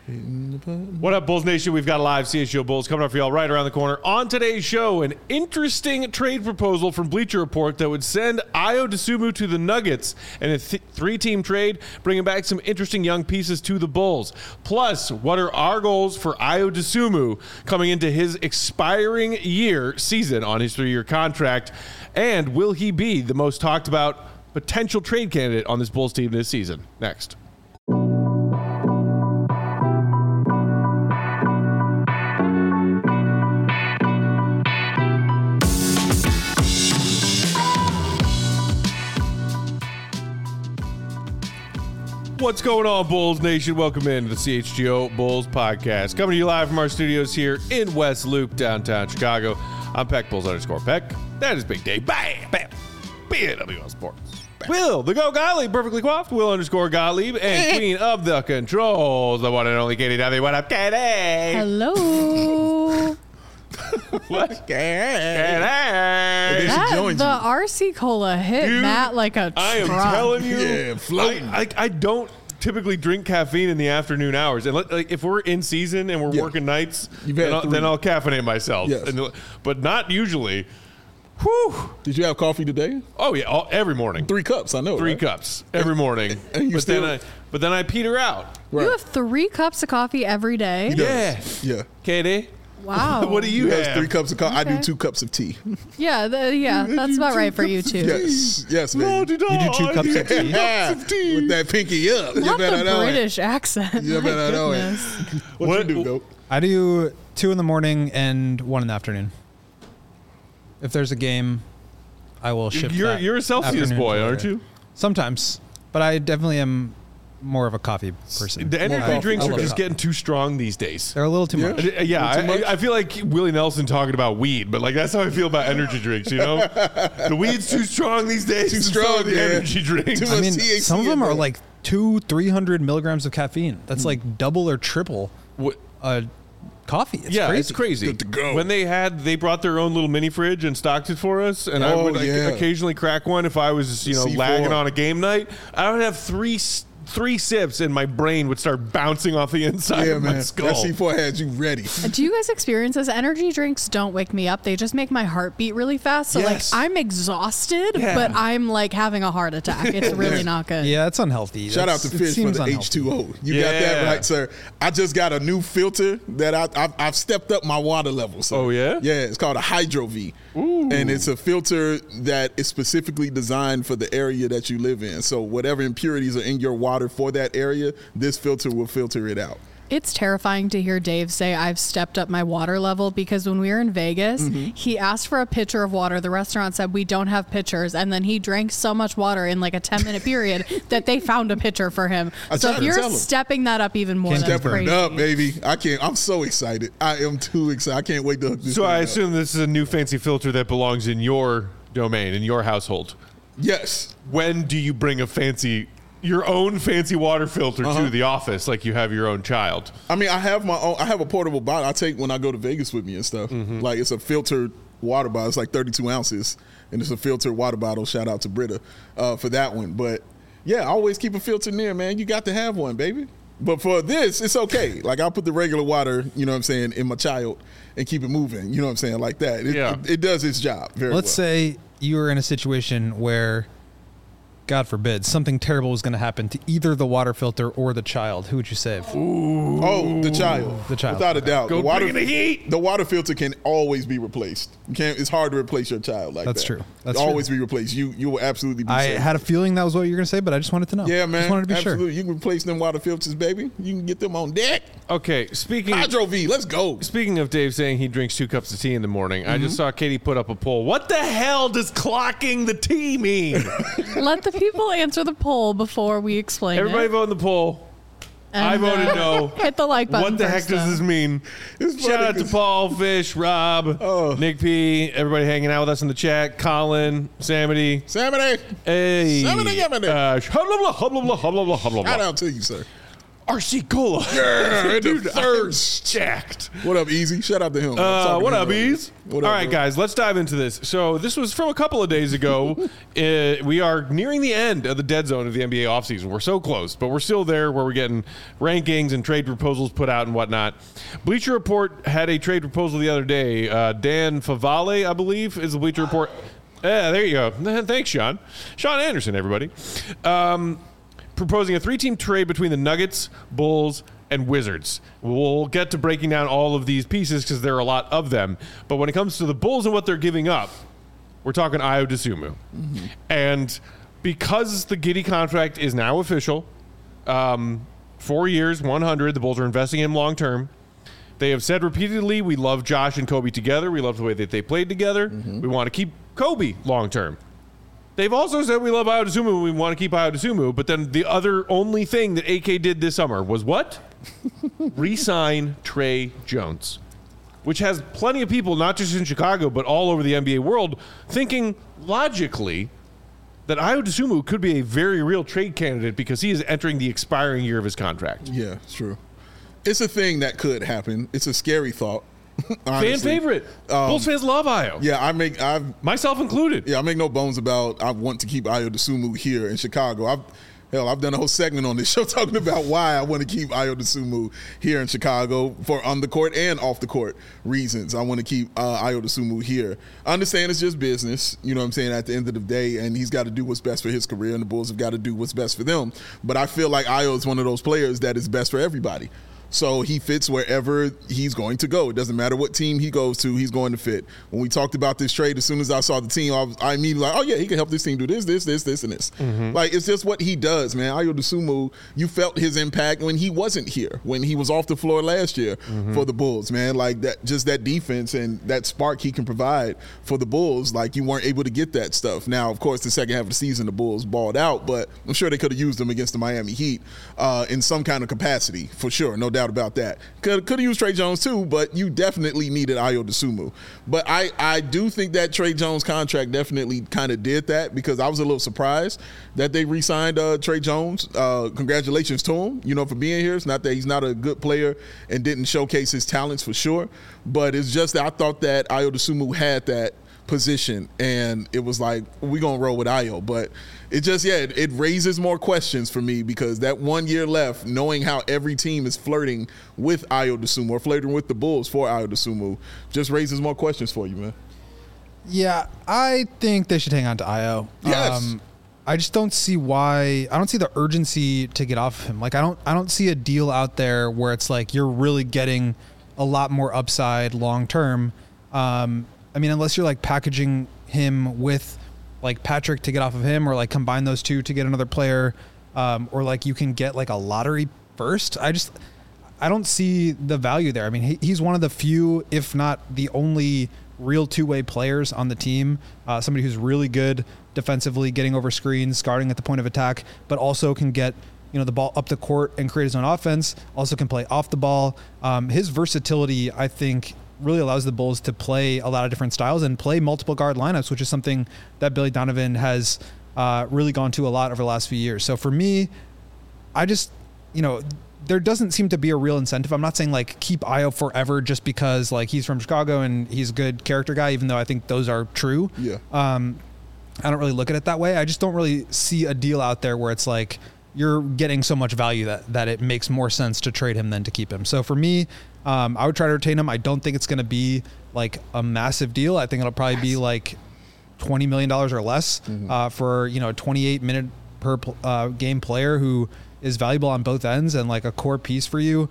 What up, Bulls Nation? We've got a live CHGO Bulls coming up for y'all right around the corner. On today's show, an interesting trade proposal from Bleacher Report that would send Ayo Dosunmu to the Nuggets and a three-team trade, bringing back some interesting young pieces to the Bulls. Plus, what are our goals for Ayo Dosunmu coming into his expiring season on his 3-year contract? And will he be the most talked about potential trade candidate on this Bulls team this season? Next. What's going on, Bulls Nation? Welcome in to the CHGO Bulls podcast. Coming to you live from our studios here in West Loop, downtown Chicago. I'm Peck Bulls _Peck. That is Big Dave. Bam! Bam! BWL Sports. Bam. Will, the Go Gottlieb, perfectly coiffed. Will _Gottlieb, and Queen of the Controls, the one and only Katie W. What up, Katie? Hello. What? The RC Cola hit Dude, Matt like a truck. I am telling you, Yeah, floating. I don't typically drink caffeine in the afternoon hours. And like, if we're in season and we're working nights, then I'll caffeinate myself. Yes. But not usually. Whew. Did you have coffee today? Oh, yeah, every morning. 3 cups, I know. 3 right? cups every morning. And you But then I peter out. Right. You have 3 cups of coffee every day? He does. Yeah. Yeah. Katie? Wow. What do you He has have? 3 cups of coffee. I Okay. do 2 cups of tea. Yeah, that's about right for you too. Yes. Yes, baby. You do 2 cups of tea? Yeah. With that pinky up. You Not better the know British accent. You My better know it. goodness. What you do, Goat? I do 2 in the morning and 1 in the afternoon. If there's a game, I will shift that You're a Celsius afternoon boy, to aren't later. you? Sometimes, but I definitely am more of a coffee person. The energy coffee. drinks I are love just coffee. getting too strong these days. They're a little too Yeah. much. Yeah, Too much? I feel like Willie Nelson talking about weed, but like that's how I feel about energy drinks. You know, the weed's too strong these days. Too and so strong, are the yeah. energy drinks. Too I much mean, THC some of them in are there. like 200-300 milligrams of caffeine. That's like double or triple What- coffee. It's yeah, crazy. it's crazy. Good to go. When they brought their own little mini fridge and stocked it for us, and I Oh, would yeah. occasionally crack one if I was C4. lagging on a game night. I would have three sips and my brain would start bouncing off the inside Yeah, of man. my skull. That C4 had you ready. Do you guys experience this? Energy drinks don't wake me up. They just make my heart beat really fast. So Yes. like I'm exhausted, Yeah. but I'm like having a heart attack. It's really not good. Yeah, it's unhealthy. Shout out to It Fish for seems the unhealthy. H2O. You got that Yeah. right, sir. I just got a new filter that I've stepped up my water level. So. Oh, yeah? Yeah, it's called a Hydro V. And it's a filter that is specifically designed for the area that you live in. So whatever impurities are in your water for that area, this filter will filter it out. It's terrifying to hear Dave say I've stepped up my water level because when we were in Vegas, he asked for a pitcher of water. The restaurant said we don't have pitchers, and then he drank so much water in like a 10-minute period that they found a pitcher for him. I So tried if to you're tell him. stepping that up even more, Can't that's step crazy. Stepping it up, baby. I can't. I'm so excited. I am too excited. I can't wait to hook this So thing I up. assume this is a new fancy filter that belongs in your domain, in your household. Yes. When do you bring your own fancy water filter to the office like you have your own child? I mean, I have my own. I have a portable bottle I take when I go to Vegas with me and stuff. Like it's a filtered water bottle. It's like 32 ounces, and it's a filtered water bottle. Shout out to Britta for that one. But yeah, I always keep a filter near, man. You got to have one, baby. But for this, it's okay. Like I'll put the regular water, you know what I'm saying, in my child and keep it moving. You know what I'm saying, like that. It does its job very Let's well. say you were in a situation where, God forbid, something terrible was going to happen to either the water filter or the child. Who would you save? Oh, the child. The child. Without a doubt. Go bring in the heat. The water filter can always be replaced. You can't. It's hard to replace your child like That's that. true. That's It'll always be replaced. You will absolutely be I safe. had a feeling that was what you were going to say, but I just wanted to know. Yeah, man. Just wanted to be absolutely. sure. You can replace them water filters, baby. You can get them on deck. Okay, speaking Hydro V, let's go. Speaking of Dave saying he drinks 2 cups of tea in the morning, I just saw Katie put up a poll. What the hell does clocking the tea mean? Let the people answer the poll before we explain Everybody it. vote in the poll. And, I voted no. Hit the like button. What the heck first, does though. this mean? It's Shout funny out to 'cause- Paul, Fish, Rob, Nick P, everybody hanging out with us in the chat, Colin, Samity. Samity, Hey. Samity, Yamity. Hubla, blah, hubla, blah, hubla, blah, hubla, shout blah. out to you, sir. RC Cola. Yeah, Dude, the thirst. Jacked. What up, Easy? Shout out to him. What up, Ease? What All up, right, bro? guys, let's dive into this. So this was from a couple of days ago. We are nearing the end of the dead zone of the NBA offseason. We're so close, but we're still there where we're getting rankings and trade proposals put out and whatnot. Bleacher Report had a trade proposal the other day. Dan Favale, I believe, is the Bleacher Report. Yeah, there you go. Thanks, Sean. Sean Anderson, everybody. Proposing a 3-team trade between the Nuggets, Bulls, and Wizards. We'll get to breaking down all of these pieces because there are a lot of them. But when it comes to the Bulls and what they're giving up, we're talking Ayo Dosunmu. Mm-hmm. And because the Giddey contract is now official, 4 years, 100, the Bulls are investing in him long term. They have said repeatedly, we love Josh and Kobe together. We love the way that they played together. Mm-hmm. We want to keep Kobe long term. They've also said we love Ayo Dosunmu. We want to keep Ayo Dosunmu. But then the other only thing that AK did this summer was what? Re-sign Trey Jones, which has plenty of people, not just in Chicago, but all over the NBA world, thinking logically that Ayo Dosunmu could be a very real trade candidate because he is entering the expiring year of his contract. Yeah, it's true. It's a thing that could happen. It's a scary thought. Fan favorite. Bulls fans love Ayo. Yeah, myself included. Yeah, I make no bones about I want to keep Ayo Dosunmu here in Chicago. I've done a whole segment on this show talking about why I want to keep Ayo Dosunmu here in Chicago for on the court and off the court reasons. I want to keep Ayo Dosunmu here. I understand it's just business, you know what I'm saying, at the end of the day, and he's got to do what's best for his career, and the Bulls have got to do what's best for them. But I feel like Ayo is one of those players that is best for everybody. So he fits wherever he's going to go. It doesn't matter what team he goes to, he's going to fit. When we talked about this trade, as soon as I saw the team, I immediately like, oh yeah, he can help this team do this, and this. Mm-hmm. Like, it's just what he does, man. Ayo Dosunmu, you felt his impact when he wasn't here, when he was off the floor last year for the Bulls, man. Like, that, just that defense and that spark he can provide for the Bulls, like, you weren't able to get that stuff. Now, of course, the second half of the season, the Bulls balled out, but I'm sure they could have used him against the Miami Heat in some kind of capacity, for sure, no doubt about that. Could have used Trey Jones too, but you definitely needed Ayo Dosunmu. But I do think that Trey Jones contract definitely kind of did that, because I was a little surprised that they re-signed Trey Jones. Congratulations to him, you know, for being here. It's not that he's not a good player and didn't showcase his talents for sure, but it's just that I thought that Ayo Dosunmu had that position, and it was like, we're going to roll with Ayo. But it just, it raises more questions for me, because that 1 year left, knowing how every team is flirting with Ayo Dosunmu or flirting with the Bulls for Ayo Dosunmu, just raises more questions for you, man. Yeah, I think they should hang on to Ayo. Yes. I just don't see why. I don't see the urgency to get off of him. Like, I don't see a deal out there where it's like you're really getting a lot more upside long term. I mean, unless you're like packaging him with like Patrick to get off of him, or like combine those two to get another player, or like you can get like a lottery first. I don't see the value there. I mean, he's one of the few, if not the only real two-way players on the team. Somebody who's really good defensively, getting over screens, guarding at the point of attack, but also can get, you know, the ball up the court and create his own offense. Also can play off the ball. His versatility, I think, really allows the Bulls to play a lot of different styles and play multiple guard lineups, which is something that Billy Donovan has really gone to a lot over the last few years. So for me, I just, you know, there doesn't seem to be a real incentive. I'm not saying like keep Ayo forever just because like he's from Chicago and he's a good character guy, even though I think those are true. Yeah. I don't really look at it that way. I just don't really see a deal out there where it's like you're getting so much value that it makes more sense to trade him than to keep him. So for me, I would try to retain him. I don't think it's going to be like a massive deal. I think it'll probably be like $20 million or less for, you know, a 28-minute per game player who is valuable on both ends and like a core piece for you.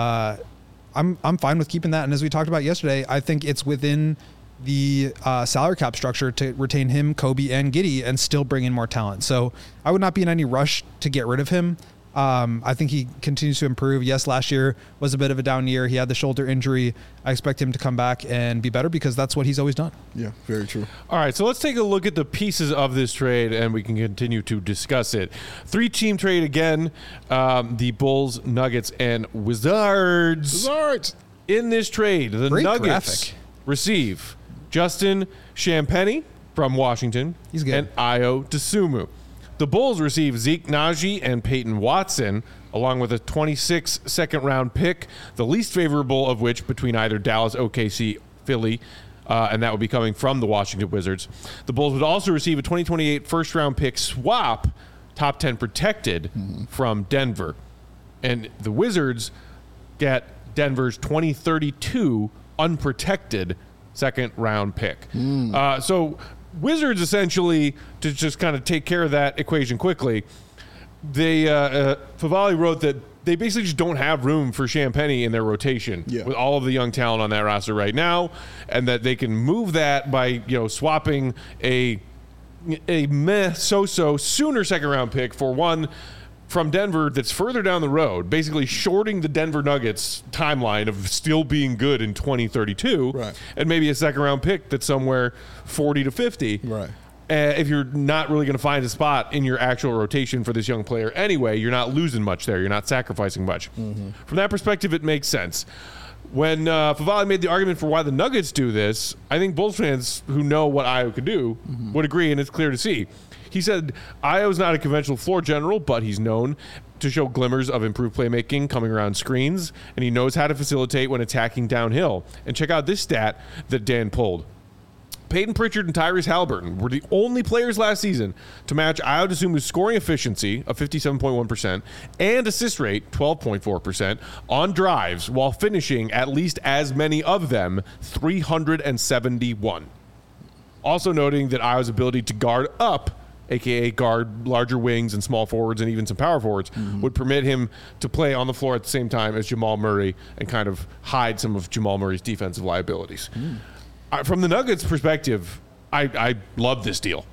I'm fine with keeping that. And as we talked about yesterday, I think it's within the salary cap structure to retain him, Kobe, and Giddey and still bring in more talent. So I would not be in any rush to get rid of him. I think he continues to improve. Yes, last year was a bit of a down year. He had the shoulder injury. I expect him to come back and be better because that's what he's always done. Yeah, very true. All right, so let's take a look at the pieces of this trade, and we can continue to discuss it. 3-team trade again, the Bulls, Nuggets, and Wizards. In this trade, the Great Nuggets graphic. receive Justin Champagnie from Washington. He's good. And Ayo Dosunmu. The Bulls receive Zeke Naji and Peyton Watson along with a 26 second-round pick, the least favorable of which between either Dallas, OKC, Philly, and that would be coming from the Washington Wizards. The Bulls would also receive a 2028 first-round pick swap, top 10 protected, from Denver. And the Wizards get Denver's 2032 unprotected second-round pick. So Wizards, essentially, to just kind of take care of that equation quickly, they Favale wrote that they basically just don't have room for Champagnie in their rotation with all of the young talent on that roster right now, and that they can move that by swapping a so-so sooner second-round pick for one from Denver that's further down the road, basically shorting the Denver Nuggets timeline of still being good in 2032, and maybe a second-round pick that's somewhere 40 to 50. Right. If you're not really going to find a spot in your actual rotation for this young player anyway, you're not losing much there. You're not sacrificing much. From that perspective, it makes sense. When Favale made the argument for why the Nuggets do this, I think Bulls fans who know what Ayo could do would agree, and it's clear to see. He said, Ayo's not a conventional floor general, but he's known to show glimmers of improved playmaking coming around screens, and he knows how to facilitate when attacking downhill. And check out this stat that Dan pulled. Peyton Pritchard and Tyrese Halliburton were the only players last season to match Ayo Dosunmu's scoring efficiency of 57.1% and assist rate 12.4% on drives while finishing at least as many of them, 371. Also noting that Ayo's ability to guard up, a.k.a. guard larger wings and small forwards and even some power forwards, would permit him to play on the floor at the same time as Jamal Murray and kind of hide some of Jamal Murray's defensive liabilities. From the Nuggets' perspective, I love this deal.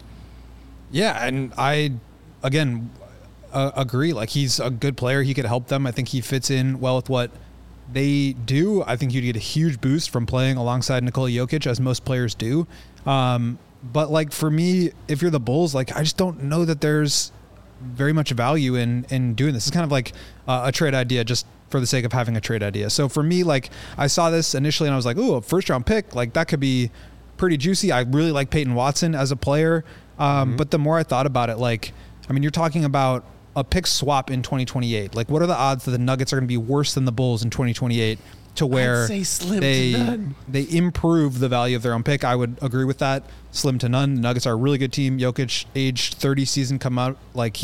Yeah, and I, again, agree. Like, he's a good player. He could help them. I think he fits in well with what they do. I think you'd get a huge boost from playing alongside Nikola Jokic, as most players do. But, like, for me, if you're the Bulls, like, I just don't know that there's very much value in doing this. It's kind of like a trade idea just for the sake of having a trade idea. So for me, like, I saw this initially and I was like, ooh, a first round pick, like, that could be pretty juicy. I really like Peyton Watson as a player. But the more I thought about it, like, I mean, you're talking about a pick swap in 2028. Like, what are the odds that the Nuggets are going to be worse than the Bulls in 2028 to where they improve the value of their own pick? I would agree with that. Slim to none. The Nuggets are a really good team. Jokic, age 30 season come out. Like,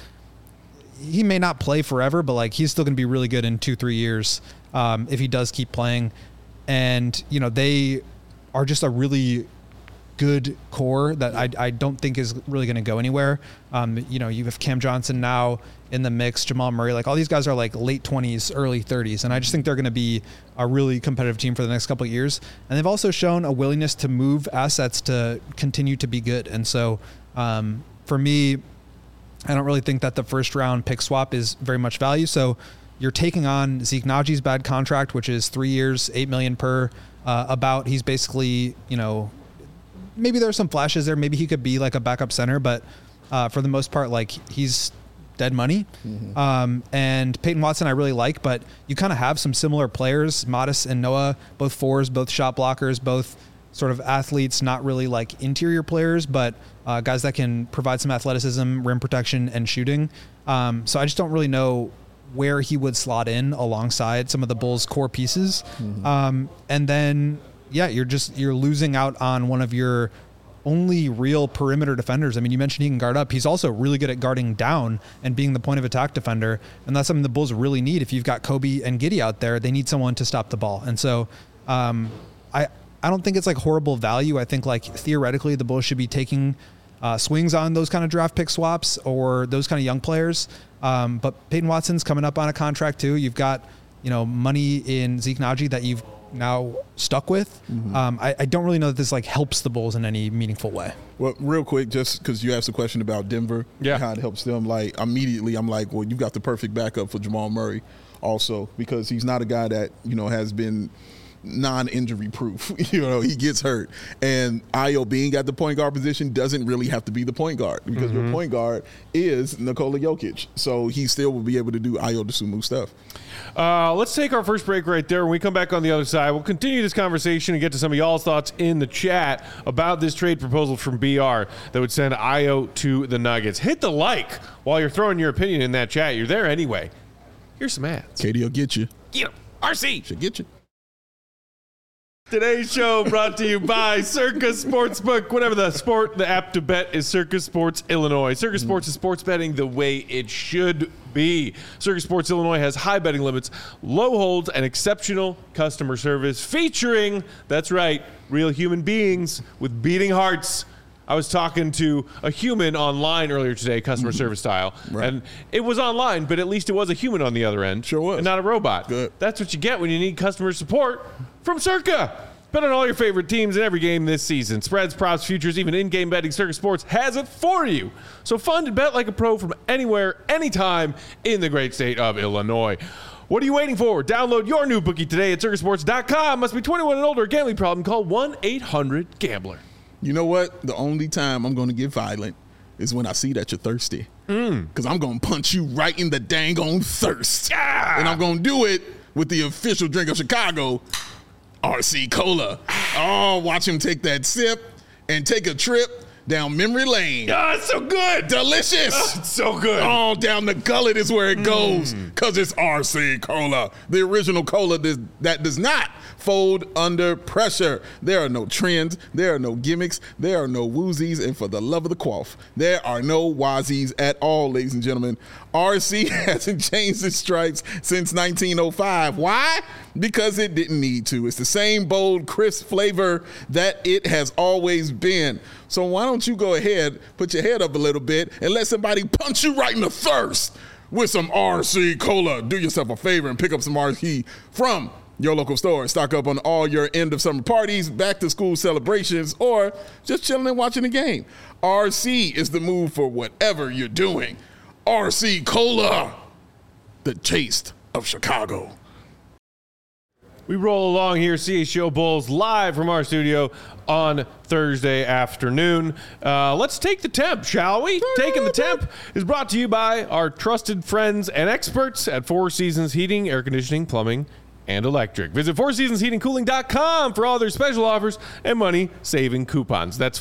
he may not play forever, but, like, he's still going to be really good in 2-3 years if he does keep playing. And, they are just a really good core that I don't think is really going to go anywhere. You have Cam Johnson now in the mix, Jamal Murray, like, all these guys are like late 20s, early 30s. And I just think they're going to be a really competitive team for the next couple of years. And they've also shown a willingness to move assets to continue to be good. And so for me, I don't really think that the first round pick swap is very much value. So you're taking on Zeke Naji's bad contract, which is 3 years, $8 million per. He's basically, maybe there are some flashes there. Maybe he could be like a backup center, but for the most part, like, he's dead money. And Peyton Watson I really like, but you kind of have some similar players, Modest and Noah, both fours, both shot blockers, both sort of athletes, not really like interior players, but guys that can provide some athleticism, rim protection, and shooting. So I just don't really know where he would slot in alongside some of the Bulls' core pieces. And then, you're losing out on one of your only real perimeter defenders. I mean, you mentioned he can guard up. He's also really good at guarding down and being the point of attack defender. And that's something the Bulls really need. If you've got Kobe and Giddey out there, they need someone to stop the ball. And so I don't think it's like horrible value. I think, like, theoretically the Bulls should be taking swings on those kind of draft pick swaps or those kind of young players. But Peyton Watson's coming up on a contract too. You've got, money in Zeke Naji that you've now stuck with. I don't really know that this, like, helps the Bulls in any meaningful way. Well, real quick, just because you asked a question about Denver, how it helps them, like, immediately I'm like, well, you've got the perfect backup for Jamal Murray also, because he's not a guy that, has been non-injury proof. He gets hurt. And Ayo being at the point guard position doesn't really have to be the point guard because your point guard is Nikola Jokic. So he still will be able to do Ayo Dosunmu stuff. Let's take our first break right there. When we come back on the other side, we'll continue this conversation and get to some of y'all's thoughts in the chat about this trade proposal from BR that would send Ayo to the Nuggets. Hit the like while you're throwing your opinion in that chat. You're there anyway. Here's some ads. Katie will get you. Get him. RC. She'll get you. Today's show brought to you by Circa Sportsbook. Whatever the sport, the app to bet is Circa Sports Illinois. Circa Sports is sports betting the way it should be. Circa Sports Illinois has high betting limits, low holds, and exceptional customer service featuring, that's right, real human beings with beating hearts. I was talking to a human online earlier today, customer service style, and it was online, but at least it was a human on the other end. Sure was. And not a robot. Good. That's what you get when you need customer support from Circa. Bet on all your favorite teams in every game this season. Spreads, props, futures, even in-game betting, Circa Sports has it for you. So fund and bet like a pro from anywhere, anytime in the great state of Illinois. What are you waiting for? Download your new bookie today at circasports.com. Must be 21 and older. Gambling problem? Call 1-800-GAMBLER. You know what? The only time I'm going to get violent is when I see that you're thirsty. Because I'm going to punch you right in the dang on thirst. Yeah! And I'm going to do it with the official drink of Chicago, RC Cola. Oh, watch him take that sip and take a trip down memory lane. Oh, it's so good. Delicious. Oh, it's so good. Oh, down the gullet is where it goes because it's RC Cola, the original cola that does not fold under pressure. There are no trends. There are no gimmicks. There are no woozies. And for the love of the quaff, there are no wazies at all, ladies and gentlemen. RC hasn't changed its stripes since 1905. Why? Because it didn't need to. It's the same bold, crisp flavor that it has always been. So why don't you go ahead, put your head up a little bit, and let somebody punch you right in the thirst with some RC Cola. Do yourself a favor and pick up some RC from your local store. Stock up on all your end of summer parties, back to school celebrations, or just chilling and watching the game. RC is the move for whatever you're doing. RC Cola, the taste of Chicago. We roll along here, CHGO Bulls, live from our studio on Thursday afternoon. Let's take the temp, shall we? Taking the temp is brought to you by our trusted friends and experts at Four Seasons Heating, Air Conditioning, Plumbing, and Electric. Visit FourSeasonsHeatingCooling.com for all their special offers and money-saving coupons. That's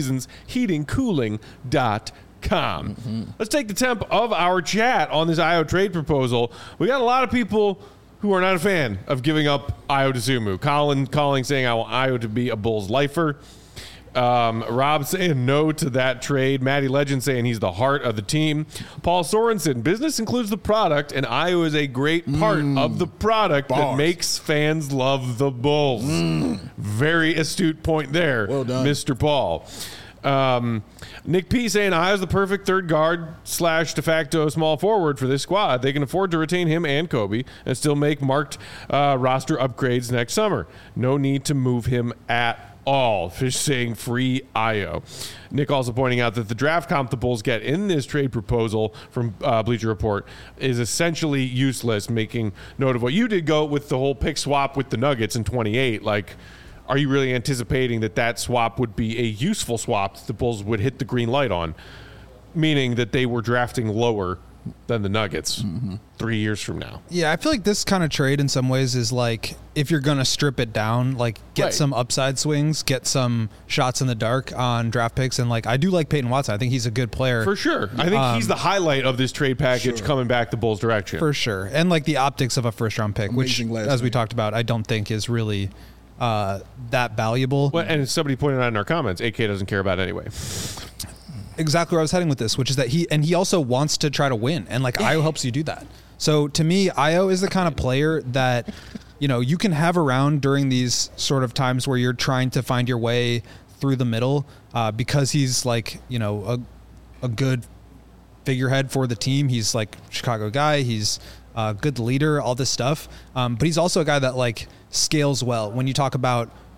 FourSeasonsHeatingCooling.com. Let's take the temp of our chat on this Ayo trade proposal. We got a lot of people who are not a fan of giving up Ayo Dosunmu. Colin calling, saying, I want Ayo to be a Bulls lifer. Rob saying no to that trade. Matty Legend saying he's the heart of the team. Paul Sorensen, business includes the product, and Ayo is a great part of the product that makes fans love the Bulls. Very astute point there, well done, Mr. Paul. Nick P saying Ayo's the perfect third guard / de facto small forward for this squad. They can afford to retain him and Kobe and still make marked roster upgrades next summer. No need to move him at all. Fish saying free Ayo. Nick also pointing out that the draft comp the Bulls get in this trade proposal from Bleacher Report is essentially useless, making note of what you did go with the whole pick swap with the Nuggets in 28. Like, are you really anticipating that swap would be a useful swap that the Bulls would hit the green light on, meaning that they were drafting lower than the Nuggets 3 years from now? Yeah, I feel like this kind of trade in some ways is like, if you're going to strip it down, like get some upside swings, get some shots in the dark on draft picks. And like, I do like Peyton Watson. I think he's a good player. For sure. I think he's the highlight of this trade package coming back the Bulls' direction. For sure. And like the optics of a first round pick, amazing, which, as we talked about, I don't think is really that valuable. Well, and somebody pointed out in our comments, AK doesn't care about anyway. Exactly where I was heading with this, which is that he also wants to try to win, and like Ayo helps you do that. So to me, Ayo is the kind of player that, you know, you can have around during these sort of times where you're trying to find your way through the middle, because he's like, you know, a good figurehead for the team. He's like Chicago guy. He's a good leader, all this stuff. But he's also a guy that like scales well when you talk about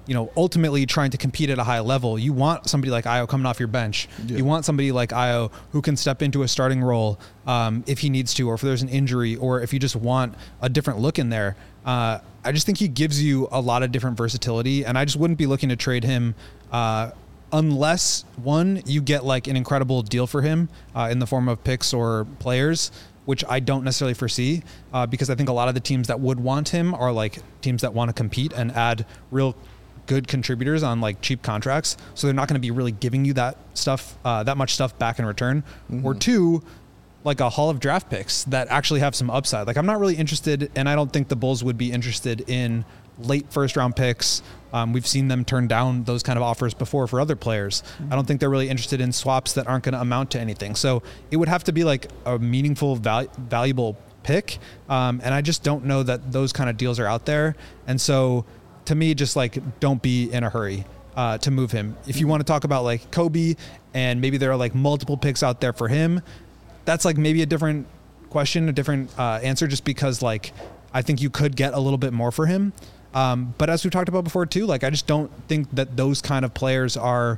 ultimately trying to compete at a high level, you want somebody like Ayo coming off your bench. Yeah. You want somebody like Ayo who can step into a starting role if he needs to, or if there's an injury, or if you just want a different look in there. I just think he gives you a lot of different versatility, and I just wouldn't be looking to trade him unless, one, you get like an incredible deal for him in the form of picks or players, which I don't necessarily foresee because I think a lot of the teams that would want him are like teams that want to compete and add real good contributors on like cheap contracts. So they're not going to be really giving you that stuff, that much stuff back in return. Mm-hmm. Or two, like a haul of draft picks that actually have some upside. Like I'm not really interested, and I don't think the Bulls would be interested in late first round picks. We've seen them turn down those kind of offers before for other players. Mm-hmm. I don't think they're really interested in swaps that aren't going to amount to anything. So it would have to be like a meaningful, valuable pick. And I just don't know that those kind of deals are out there. And so to me, just like, don't be in a hurry to move him. If you want to talk about like Kobe and maybe there are like multiple picks out there for him, that's like maybe a different question, a different answer, just because like I think you could get a little bit more for him. But as we've talked about before too, like I just don't think that those kind of players are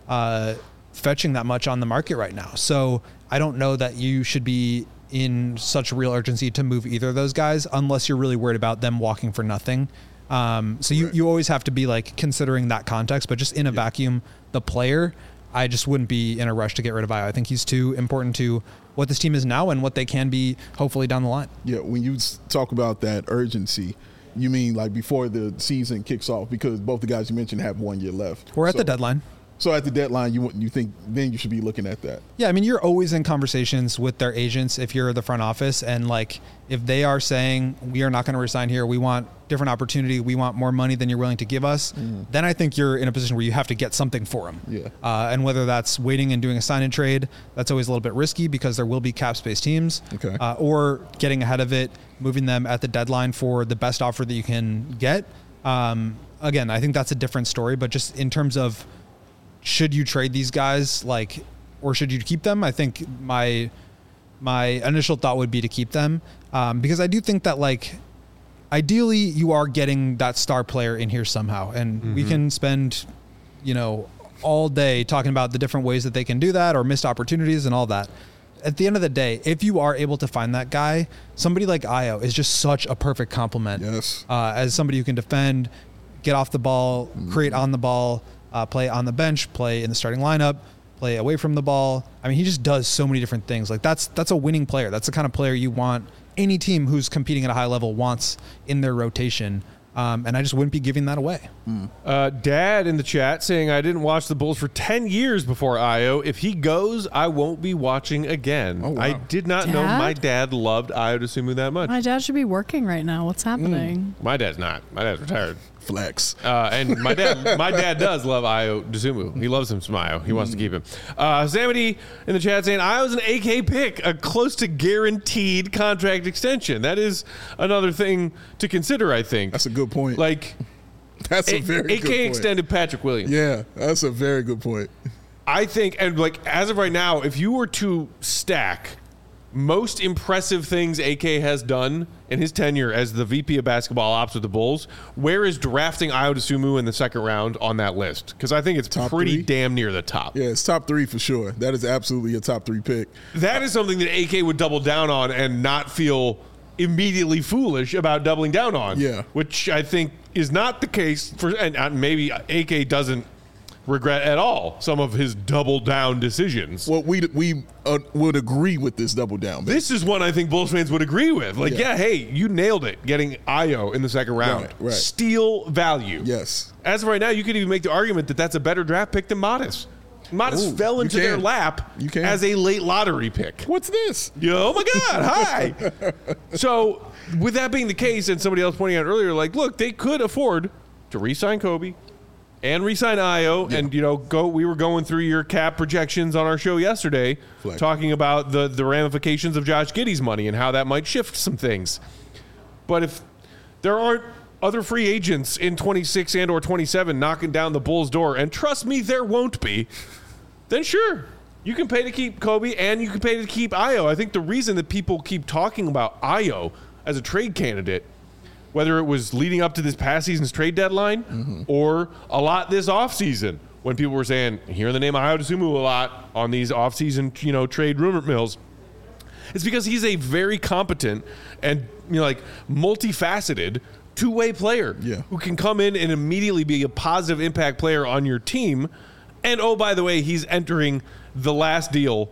fetching that much on the market right now. So I don't know that you should be in such real urgency to move either of those guys unless you're really worried about them walking for nothing. So you always have to be like considering that context, but just in a vacuum, the player, I just wouldn't be in a rush to get rid of Ayo. I think he's too important to what this team is now and what they can be hopefully down the line. Yeah, when you talk about that urgency, you mean like before the season kicks off, because both the guys you mentioned have 1 year left. We're at the deadline. So at the deadline, you think then you should be looking at that? Yeah, I mean, you're always in conversations with their agents if you're the front office, and like if they are saying we are not going to resign here, we want different opportunity, we want more money than you're willing to give us, then I think you're in a position where you have to get something for them. Yeah. And whether that's waiting and doing a sign and trade, that's always a little bit risky because there will be cap space teams. Okay. Or getting ahead of it, moving them at the deadline for the best offer that you can get. Again, I think that's a different story, but just in terms of should you trade these guys, like, or should you keep them? I think my initial thought would be to keep them because I do think that, like, ideally you are getting that star player in here somehow, and we can spend, all day talking about the different ways that they can do that or missed opportunities and all that. At the end of the day, if you are able to find that guy, somebody like Ayo is just such a perfect complement. Yes. As somebody who can defend, get off the ball, create on the ball, play on the bench, play in the starting lineup, play away from the ball. I mean, he just does so many different things. Like that's a winning player. That's the kind of player you want any team who's competing at a high level wants in their rotation. And I just wouldn't be giving that away. Dad in the chat saying, I didn't watch the Bulls for 10 years before Ayo. If he goes, I won't be watching again. Oh, wow. I did not know my dad loved Ayo Dosunmu that much. My dad should be working right now. What's happening? My dad's not. My dad's retired. Flex. And my dad does love Ayo Dosunmu. He loves him some Ayo. He wants to keep him. Samity in the chat saying, Ayo's an AK pick, a close to guaranteed contract extension. That is another thing to consider, I think. That's a good point. Like, that's a very good point. AK extended Patrick Williams. Yeah, that's a very good point. I think, and like as of right now, if you were to stack most impressive things AK has done in his tenure as the VP of basketball ops with the Bulls, where is drafting Ayo Dosunmu in the second round on that list? Because I think it's top pretty three? Damn near the top. Yeah, it's top 3 for sure. That is absolutely a top 3 pick. That is something that AK would double down on and not feel immediately foolish about doubling down on. Yeah. Which I think is not the case for, and maybe AK doesn't regret at all some of his double down decisions. Well, we would agree with this double down. This is one I think Bulls fans would agree with. Like, yeah, hey, you nailed it getting Ayo in the second round. Right. Steal value. Yes. As of right now, you could even make the argument that that's a better draft pick than Modest. Modest fell into their lap as a late lottery pick. What's this? Oh my God, hi. So with that being the case, and somebody else pointing out earlier, like, look, they could afford to re-sign Kobe and re-sign Ayo, and we were going through your cap projections on our show yesterday, talking about the ramifications of Josh Giddey's money and how that might shift some things. But if there aren't other free agents in 26 and or 27 knocking down the Bulls' door, and trust me, there won't be, then sure, you can pay to keep Kobe and you can pay to keep Ayo. I think the reason that people keep talking about Ayo as a trade candidate, whether it was leading up to this past season's trade deadline or a lot this offseason when people were saying, hearing the name Ayo Dosunmu a lot on these offseason, trade rumor mills. It's because he's a very competent and, multifaceted two-way player who can come in and immediately be a positive impact player on your team. And, oh, by the way, he's entering the last deal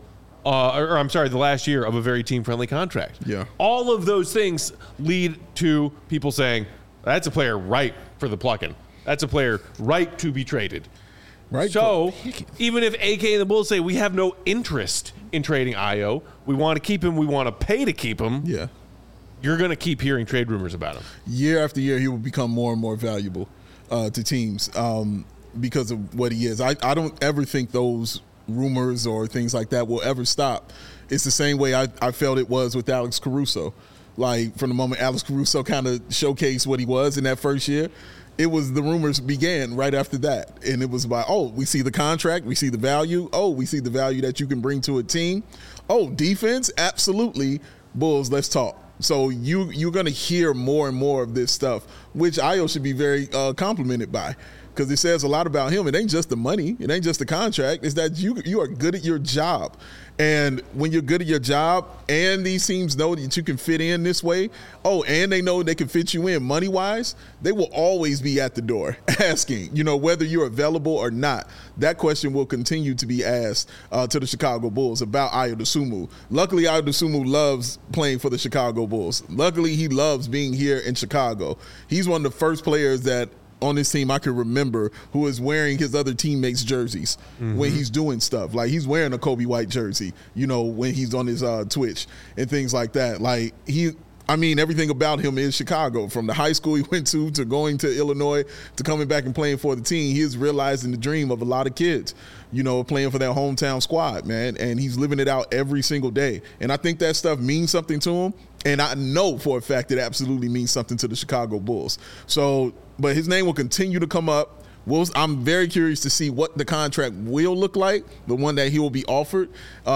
the last year of a very team-friendly contract. Yeah. All of those things lead to people saying, that's a player ripe for the plucking. That's a player ripe to be traded. Right. So even if AK and the Bulls say we have no interest in trading Ayo, we want to keep him, we want to pay to keep him, you're going to keep hearing trade rumors about him. Year after year, he will become more and more valuable to teams because of what he is. I don't ever think those rumors or things like that will ever stop. It's the same way I felt it was with Alex Caruso. Like, from the moment Alex Caruso kind of showcased what he was in that first year, it was the rumors began right after that. And it was about, oh, we see the contract, we see the value. Oh, we see the value that you can bring to a team. Oh, defense, absolutely. Bulls, let's talk. So you're going to hear more and more of this stuff, which Ayo should be very complimented by. Because it says a lot about him. It ain't just the money. It ain't just the contract. It's that you are good at your job. And when you're good at your job and these teams know that you can fit in this way, and they know they can fit you in money-wise, they will always be at the door asking, whether you're available or not. That question will continue to be asked to the Chicago Bulls about Ayo Dosunmu. Luckily, Ayo Dosunmu loves playing for the Chicago Bulls. Luckily, he loves being here in Chicago. He's one of the first players that on this team I can remember who is wearing his other teammates' jerseys when he's doing stuff. Like, he's wearing a Kobe White jersey, when he's on his Twitch and things like that. Like, everything about him is Chicago. From the high school he went to going to Illinois to coming back and playing for the team, he is realizing the dream of a lot of kids, playing for their hometown squad, man. And he's living it out every single day. And I think that stuff means something to him. And I know for a fact it absolutely means something to the Chicago Bulls. So, but his name will continue to come up. I'm very curious to see what the contract will look like, the one that he will be offered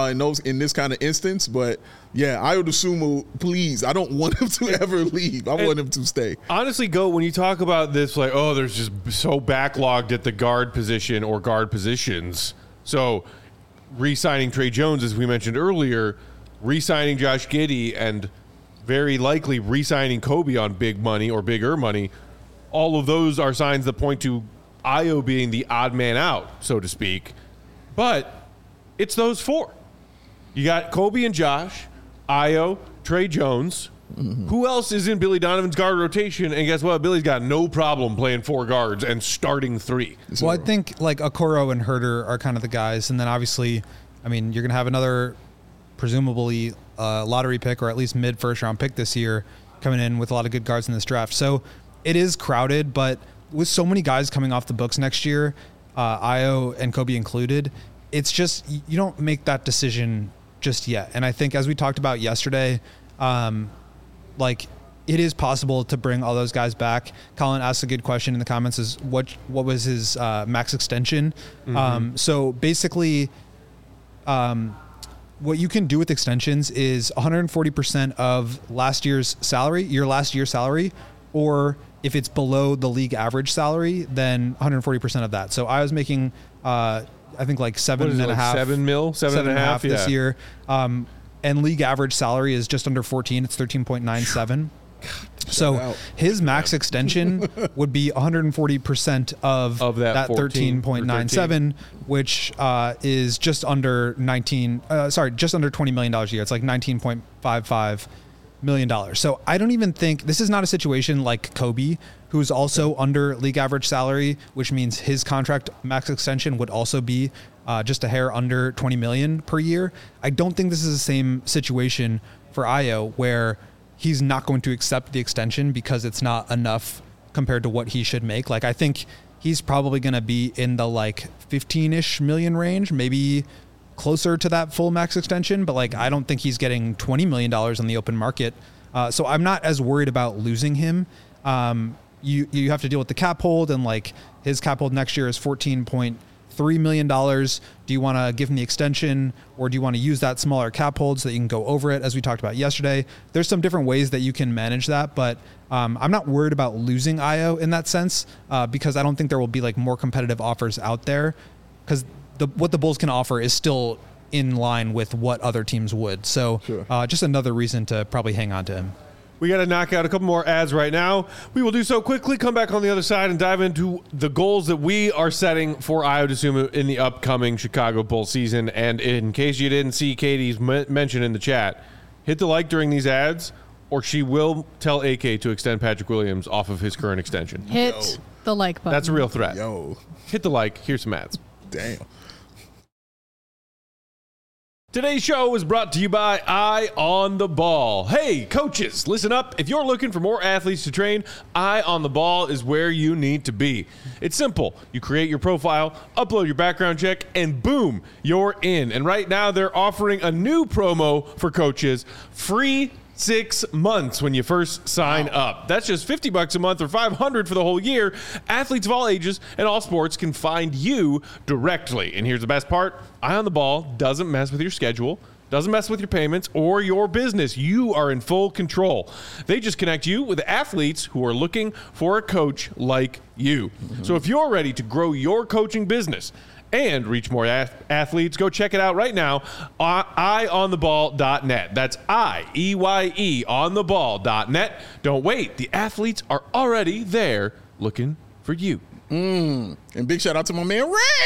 in this kind of instance. But yeah, Ayo Dosunmu, please, I don't want him to ever leave. I want him to stay. Honestly, when you talk about this, like, there's just so backlogged at the guard position or guard positions. So re-signing Trey Jones, as we mentioned earlier, re-signing Josh Giddey, and very likely re-signing Kobe on big money or bigger money, all of those are signs that point to Ayo being the odd man out, so to speak. But it's those four. You got Kobe and Josh, Ayo, Trey Jones. Who else is in Billy Donovan's guard rotation? And guess what? Billy's got no problem playing four guards and starting three. Well, I think like Okoro and Herter are kind of the guys. And then obviously, you're going to have another presumably lottery pick or at least mid-first round pick this year coming in with a lot of good guards in this draft. So it is crowded, but with so many guys coming off the books next year, Ayo and Kobe included, it's just, you don't make that decision just yet. And I think as we talked about yesterday, it is possible to bring all those guys back. Colin asked a good question in the comments, is what was his max extension? So basically, what you can do with extensions is 140% of last year's salary, your last year's salary, or if it's below the league average salary, then 140% of that. So I was making, I think like $7.5 million this year. And league average salary is just under 14. It's 13.97. So his max extension would be 140% of that 13.97, which is just under $20 million a year. It's like $19.55 million. So I don't even think this is not a situation like Kobe, who's also under league average salary, which means his contract max extension would also be just a hair under 20 million per year. I don't think this is the same situation for Ayo, where he's not going to accept the extension because it's not enough compared to what he should make. Like, I think he's probably going to be in the 15-ish million range, maybe closer to that full max extension, but I don't think he's getting $20 million on the open market. So I'm not as worried about losing him. You have to deal with the cap hold, and his cap hold next year is 14.3 $3 million? Do you want to give him the extension, or do you want to use that smaller cap hold so that you can go over it, as we talked about yesterday? There's some different ways that you can manage that, but I'm not worried about losing Ayo in that sense because I don't think there will be like more competitive offers out there, because what the Bulls can offer is still in line with what other teams would. So just another reason to probably hang on to him. We got to knock out a couple more ads right now. We will do so quickly, come back on the other side, and dive into the goals that we are setting for Ayo Dosunmu in the upcoming Chicago Bulls season. And in case you didn't see Katie's mention in the chat, hit the like during these ads, or she will tell AK to extend Patrick Williams off of his current extension. Hit the like button. That's a real threat. Yo, Hit the like. Here's some ads. damn. Today's show is brought to you by Eye on the Ball. Hey, coaches, listen up. If you're looking for more athletes to train, Eye on the Ball is where you need to be. It's simple. You create your profile, upload your background check, and boom, you're in. And right now, they're offering a new promo for coaches, free 6 months when you first sign up. That's just $50 a month or $500 for the whole year. Athletes of all ages and all sports can find you directly. And here's the best part. Eye on the Ball doesn't mess with your schedule, doesn't mess with your payments or your business. You are in full control. They just connect you with athletes who are looking for a coach like you. So if you're ready to grow your coaching business and reach more athletes, go check it out right now, eyeontheball.net. That's IEYE ontheball.net. Don't wait. The athletes are already there looking for you. And big shout out to my man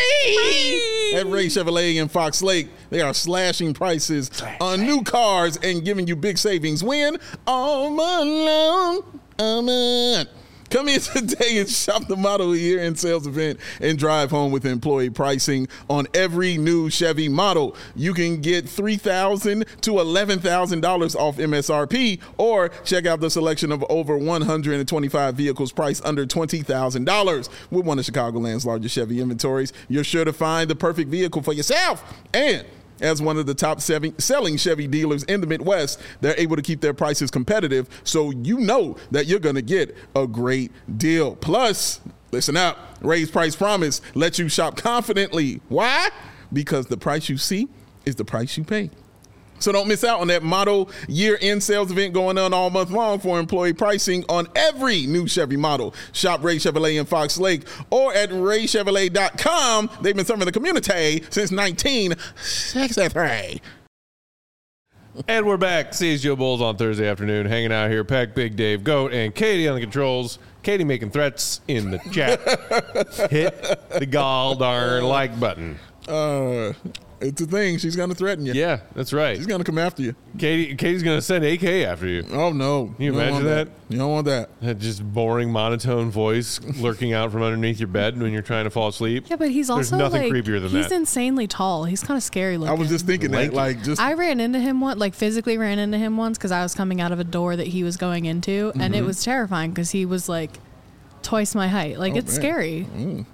Ray at Ray Chevrolet in Fox Lake. They are slashing prices on new cars and giving you big savings. When all month long, come in today and shop the model year-end sales event and drive home with employee pricing on every new Chevy model. You can get $3,000 to $11,000 off MSRP, or check out the selection of over 125 vehicles priced under $20,000. With one of Chicagoland's largest Chevy inventories, you're sure to find the perfect vehicle for yourself. And as one of the top selling Chevy dealers in the Midwest, they're able to keep their prices competitive, so you know that you're going to get a great deal. Plus, listen up, Ray's Price Promise lets you shop confidently. Why? Because the price you see is the price you pay. So don't miss out on that model year-end sales event going on all month long for employee pricing on every new Chevy model. Shop Ray Chevrolet in Fox Lake or at raychevrolet.com. They've been serving the community since 1963. And we're back. CSGO Bulls on Thursday afternoon, hanging out here. Peck, Big Dave, Goat, and Katie on the controls. Katie making threats in the chat. Hit the gall darn like button. It's a thing. She's going to threaten you. Yeah, that's right. She's going to come after you. Katie's going to send AK after you. Oh, no. Can you imagine that? You don't want that. That just boring, monotone voice lurking out from underneath your bed when you're trying to fall asleep. Yeah, but he's There's also nothing like, creepier than he's that. insanely tall. He's kind of scary looking. I was just thinking that. Like, just I ran into him physically ran into him once because I was coming out of a door that he was going into, and it was terrifying because he was like twice my height. Like, it's man. scary.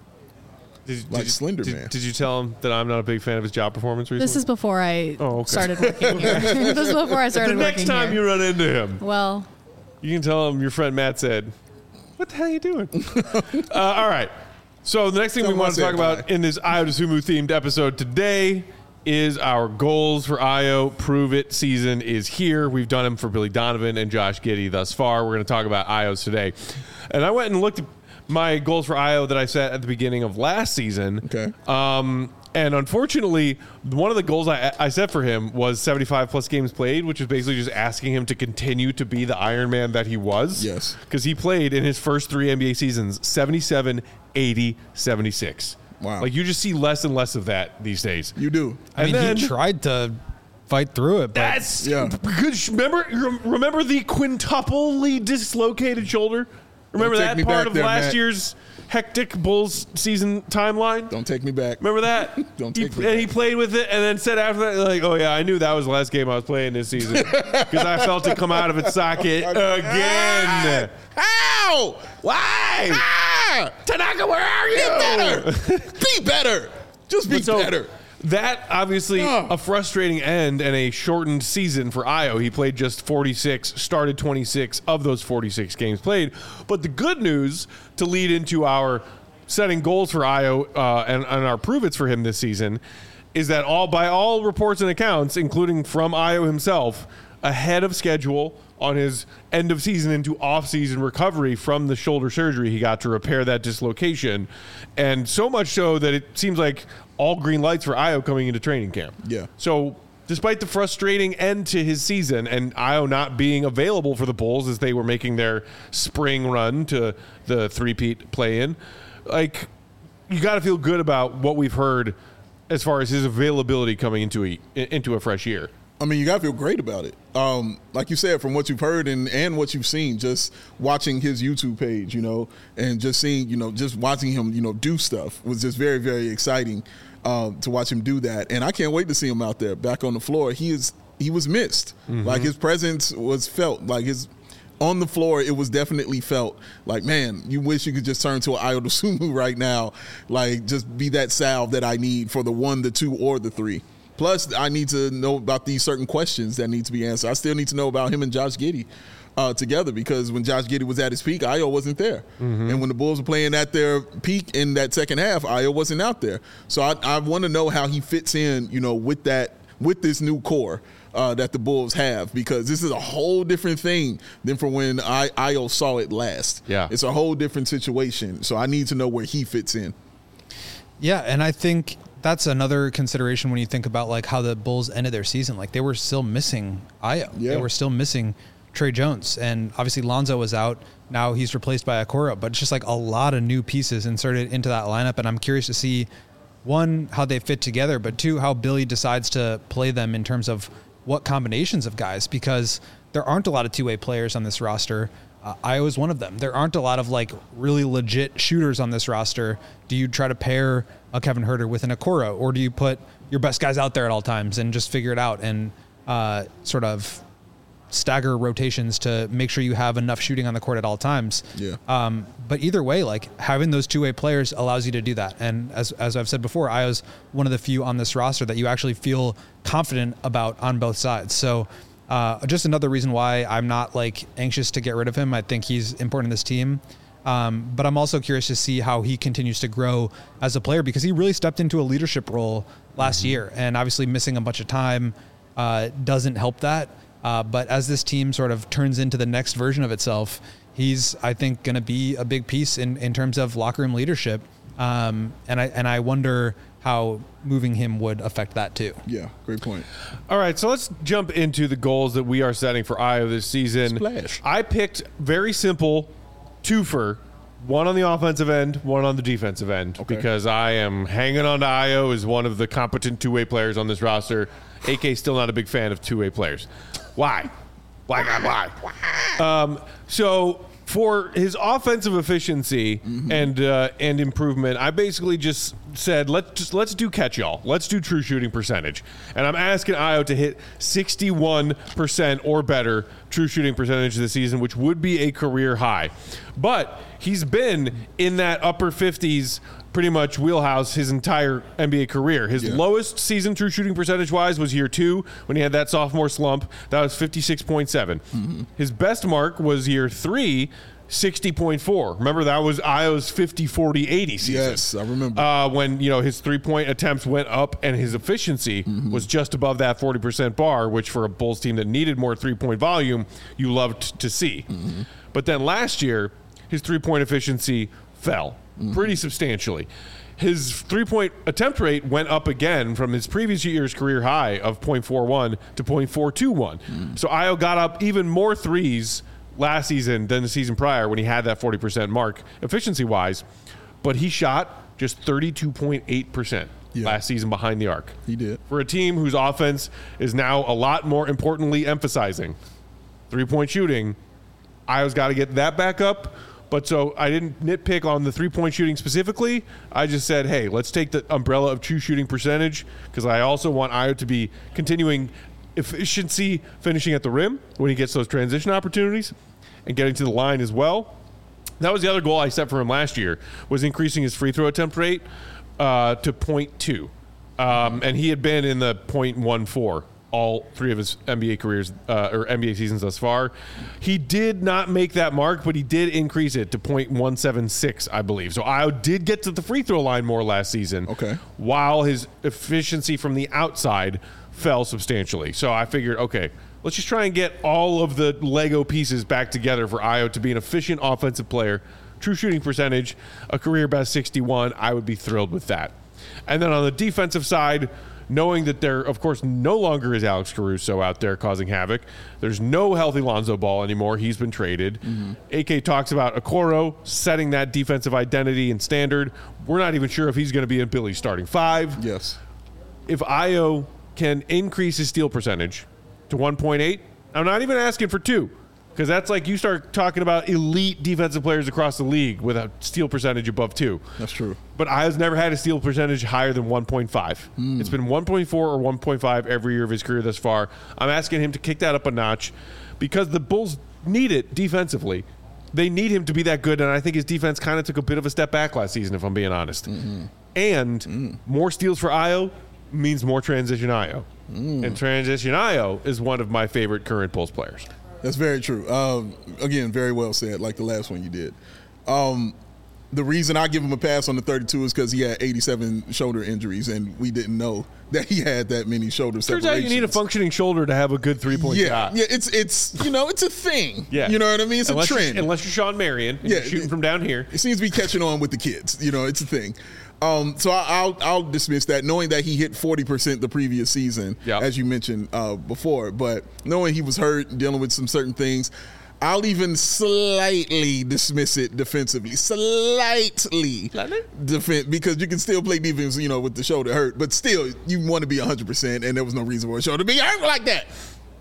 Slender Man. Did you tell him that I'm not a big fan of his job performance recently? This is before I okay. started working here. This is before I started the next working time here. you run into him, Well, you can tell him your friend Matt said, "What the hell are you doing?" All right. So the next thing Tell we him want I to talk said about bye. in this Ayo Dosunmu themed episode today is our goals for Ayo. Prove It season is here. We've done them for Billy Donovan and Josh Giddey thus far. We're going to talk about Ayo's today. And I went and looked at my goals for Ayo that I set at the beginning of last season. Okay. And unfortunately, one of the goals I set for him was 75 plus games played, which is basically just asking him to continue to be the Iron Man that he was. Yes. Because he played in his first 3 NBA seasons 77, 80, 76. Wow. Like, you just see less and less of that these days. You do. I mean, then- he tried to fight through it, but That's Yeah. good. Remember the quintuply dislocated shoulder? Remember Don't take that me part back of there, last Matt. year's hectic Bulls season timeline? Don't take me back. Remember that? Don't he, take me and he back. played with it, and then said after that, like, "Oh yeah, I knew that was the last game I was playing this season because I felt it come out of its socket again." How? Why? Ah! Tanaka, where are you? Better. Be better. Just be So, better. That obviously Oh. a frustrating end and a shortened season for Ayo. He played just 46, started 26 of those 46 games played. But the good news to lead into our setting goals for Ayo and our prove-its for him this season is that by all reports and accounts, including from Ayo himself, ahead of schedule on his end of season into off-season recovery from the shoulder surgery he got to repair that dislocation. And so much so that it seems like all green lights for Ayo coming into training camp. Yeah. So despite the frustrating end to his season and Ayo not being available for the Bulls as they were making their spring run to the three-peat play-in, like, you got to feel good about what we've heard as far as his availability coming into a fresh year. I mean, you got to feel great about it. Like you said, from what you've heard and what you've seen, just watching his YouTube page, and just seeing, just watching him, do stuff was just very, very exciting to watch him do that. And I can't wait to see him out there back on the floor. He was missed. Mm-hmm. Like, his presence was felt. Like, on the floor, it was definitely felt like, man, you wish you could just turn to an Ayo Dosunmu right now. Like, just be that salve that I need for the 1, the 2, or the 3. Plus, I need to know about these certain questions that need to be answered. I still need to know about him and Josh Giddey together, because when Josh Giddey was at his peak, Ayo wasn't there. Mm-hmm. And when the Bulls were playing at their peak in that second half, Ayo wasn't out there. So I want to know how he fits in, with this new core that the Bulls have, because this is a whole different thing than from when Ayo saw it last. Yeah. It's a whole different situation. So I need to know where he fits in. Yeah, and I think that's another consideration when you think about like how the Bulls ended their season. Like, they were still missing Ayo. Yeah. They were still missing Trey Jones. And obviously Lonzo was out. Now he's replaced by Okoro. But it's just like a lot of new pieces inserted into that lineup. And I'm curious to see, one, how they fit together, but two, how Billy decides to play them in terms of what combinations of guys, because there aren't a lot of two-way players on this roster. Ayo is one of them. There aren't a lot of like really legit shooters on this roster. Do you try to pair a Kevin Huerter with an Okoro, or do you put your best guys out there at all times and just figure it out and sort of stagger rotations to make sure you have enough shooting on the court at all times? Yeah. But either way, like, having those two-way players allows you to do that. And as I've said before, Ayo's one of the few on this roster that you actually feel confident about on both sides. So just another reason why I'm not like anxious to get rid of him. I think he's important in this team. But I'm also curious to see how he continues to grow as a player, because he really stepped into a leadership role last year, and obviously missing a bunch of time doesn't help that. But as this team sort of turns into the next version of itself, he's, I think, going to be a big piece in terms of locker room leadership. And I wonder how moving him would affect that too. Yeah, great point. All right, so let's jump into the goals that we are setting for Ayo this season. Splash. I picked very simple twofer, one on the offensive end, one on the defensive end, because I am hanging on to Ayo as one of the competent two-way players on this roster. AK still not a big fan of two-way players. Why? Why? So for his offensive efficiency and improvement, I basically just said let's do catch-all. Let's do true shooting percentage. And I'm asking Ayo to hit 61% or better true shooting percentage this season, which would be a career high. But he's been in that upper 50s pretty much wheelhouse his entire NBA career. His lowest season true shooting percentage-wise was year 2 when he had that sophomore slump. That was 56.7. His best mark was year 3, 60.4. Remember, that was Ayo's 50-40-80 season. Yes, I remember. When his three-point attempts went up and his efficiency was just above that 40% bar, which for a Bulls team that needed more three-point volume, you loved to see. But then last year, his three-point efficiency fell pretty substantially. His three-point attempt rate went up again from his previous year's career high of 0.41 to 0.421. So Ayo got up even more threes last season than the season prior when he had that 40% mark efficiency-wise, but he shot just 32.8% last season behind the arc. He did. For a team whose offense is now a lot more importantly emphasizing three-point shooting, Ayo's got to get that back up. But so I didn't nitpick on the three-point shooting specifically. I just said, hey, let's take the umbrella of true shooting percentage, because I also want Ayo to be continuing efficiency finishing at the rim when he gets those transition opportunities and getting to the line as well. That was the other goal I set for him last year, was increasing his free throw attempt rate to 0.2. And he had been in the 0.14 all 3 of his NBA careers or NBA seasons thus far. He did not make that mark, but he did increase it to .176, I believe. So Ayo did get to the free throw line more last season. Okay. While his efficiency from the outside fell substantially. So I figured, okay, let's just try and get all of the Lego pieces back together for Ayo to be an efficient offensive player. True shooting percentage, a career best 61. I would be thrilled with that. And then on the defensive side, knowing that there, of course, no longer is Alex Caruso out there causing havoc. There's no healthy Lonzo Ball anymore. He's been traded. AK talks about Okoro setting that defensive identity and standard. We're not even sure if he's going to be in Billy's starting 5. Yes. If Ayo can increase his steal percentage to 1.8, I'm not even asking for 2. Because that's like you start talking about elite defensive players across the league with a steal percentage above 2. That's true. But Ayo's never had a steal percentage higher than 1.5. It's been 1.4 or 1.5 every year of his career thus far. I'm asking him to kick that up a notch because the Bulls need it defensively. They need him to be that good, and I think his defense kind of took a bit of a step back last season, if I'm being honest. And more steals for Ayo means more transition Ayo. And transition Ayo is one of my favorite current Bulls players. That's very true. Again, very well said, like the last one you did. The reason I give him a pass on the 32 is because he had 87 shoulder injuries, and we didn't know that he had that many shoulder separations. Turns out you need a functioning shoulder to have a good three-point shot. Yeah, it's it's a thing. Yeah. You know what I mean? It's a trend. Unless you're Sean Marion and you're shooting from down here. It seems to be catching on with the kids. It's a thing. So I'll dismiss that, knowing that he hit 40% the previous season, as you mentioned before. But knowing he was hurt, dealing with some certain things, I'll even slightly dismiss it defensively. Slightly? Because you can still play defense, with the shoulder hurt. But still, you want to be 100%, and there was no reason for a shoulder to be hurt like that.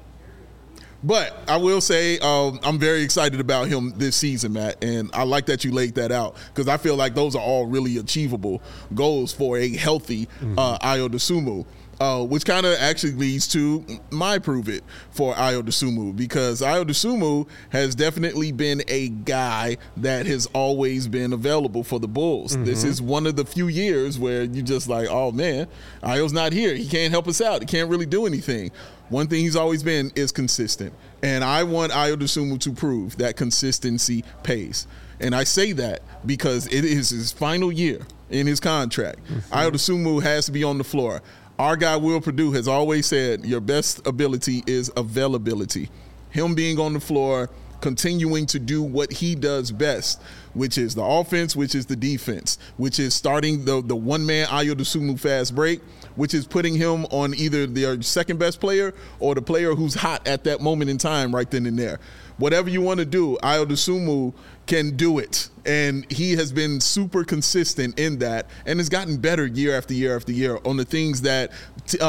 But I will say I'm very excited about him this season, Matt, and I like that you laid that out because I feel like those are all really achievable goals for a healthy Ayo Dosunmu. Which kind of actually leads to my prove it for Ayo Dosunmu, because Ayo Dosunmu has definitely been a guy that has always been available for the Bulls. This is one of the few years where you just like, oh man, Ayo's not here. He can't help us out. He can't really do anything. One thing he's always been is consistent. And I want Ayo Dosunmu to prove that consistency pays. And I say that because it is his final year in his contract. Ayo Dosunmu has to be on the floor. Our guy, Will Perdue, has always said your best ability is availability. Him being on the floor, continuing to do what he does best, which is the offense, which is the defense, which is starting the one-man Ayo Dosunmu fast break, which is putting him on either their second-best player or the player who's hot at that moment in time right then and there. Whatever you want to do, Ayo Dosunmu can do it. And he has been super consistent in that and has gotten better year after year after year on the things that the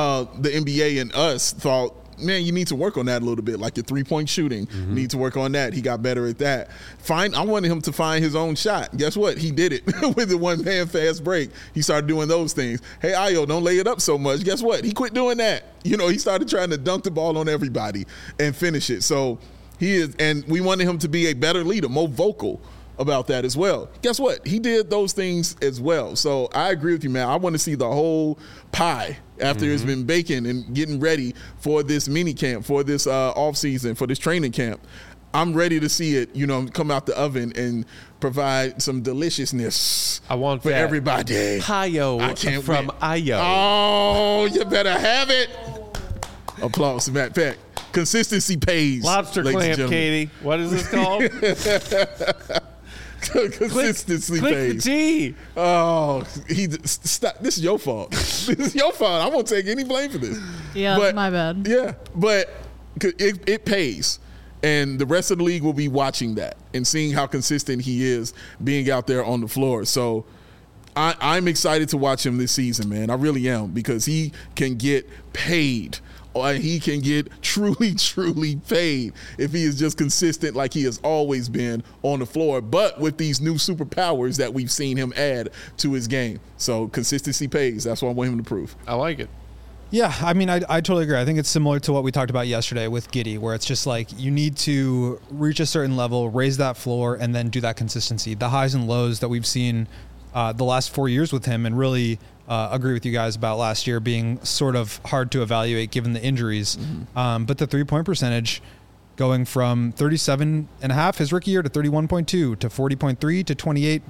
NBA and us thought, man, you need to work on that a little bit, like your three-point shooting. You need to work on that. He got better at that. I wanted him to find his own shot. Guess what? He did it with the one-man fast break. He started doing those things. Hey, Ayo, don't lay it up so much. Guess what? He quit doing that. He started trying to dunk the ball on everybody and finish it. So he is, and we wanted him to be a better leader, more vocal about that as well. Guess what? He did those things as well. So I agree with you, man. I want to see the whole pie after it's been baking and getting ready for this mini camp, for this off season, for this training camp. I'm ready to see it, come out the oven and provide some deliciousness. I want for that everybody. Payo from Ayo. Oh, you better have it. Applause to Matt Peck. Consistency pays. Lobster clamp, Katie. What is this called? Consistency click pays. The T. Oh, stop. This is your fault. This is your fault. I won't take any blame for this. Yeah, my bad. Yeah, but it pays. And the rest of the league will be watching that and seeing how consistent he is being out there on the floor. So I'm excited to watch him this season, man. I really am, because he can get paid. He can get truly, truly paid if he is just consistent like he has always been on the floor, but with these new superpowers that we've seen him add to his game. So consistency pays. That's what I want him to prove. I like it. Yeah, I mean, I totally agree. I think it's similar to what we talked about yesterday with Giddey, where it's just like you need to reach a certain level, raise that floor, and then do that consistency. The highs and lows that we've seen the last 4 years with him, and really agree with you guys about last year being sort of hard to evaluate given the injuries. But the 3-point percentage going from 37.5 his rookie year to 31.2 to 40.3 to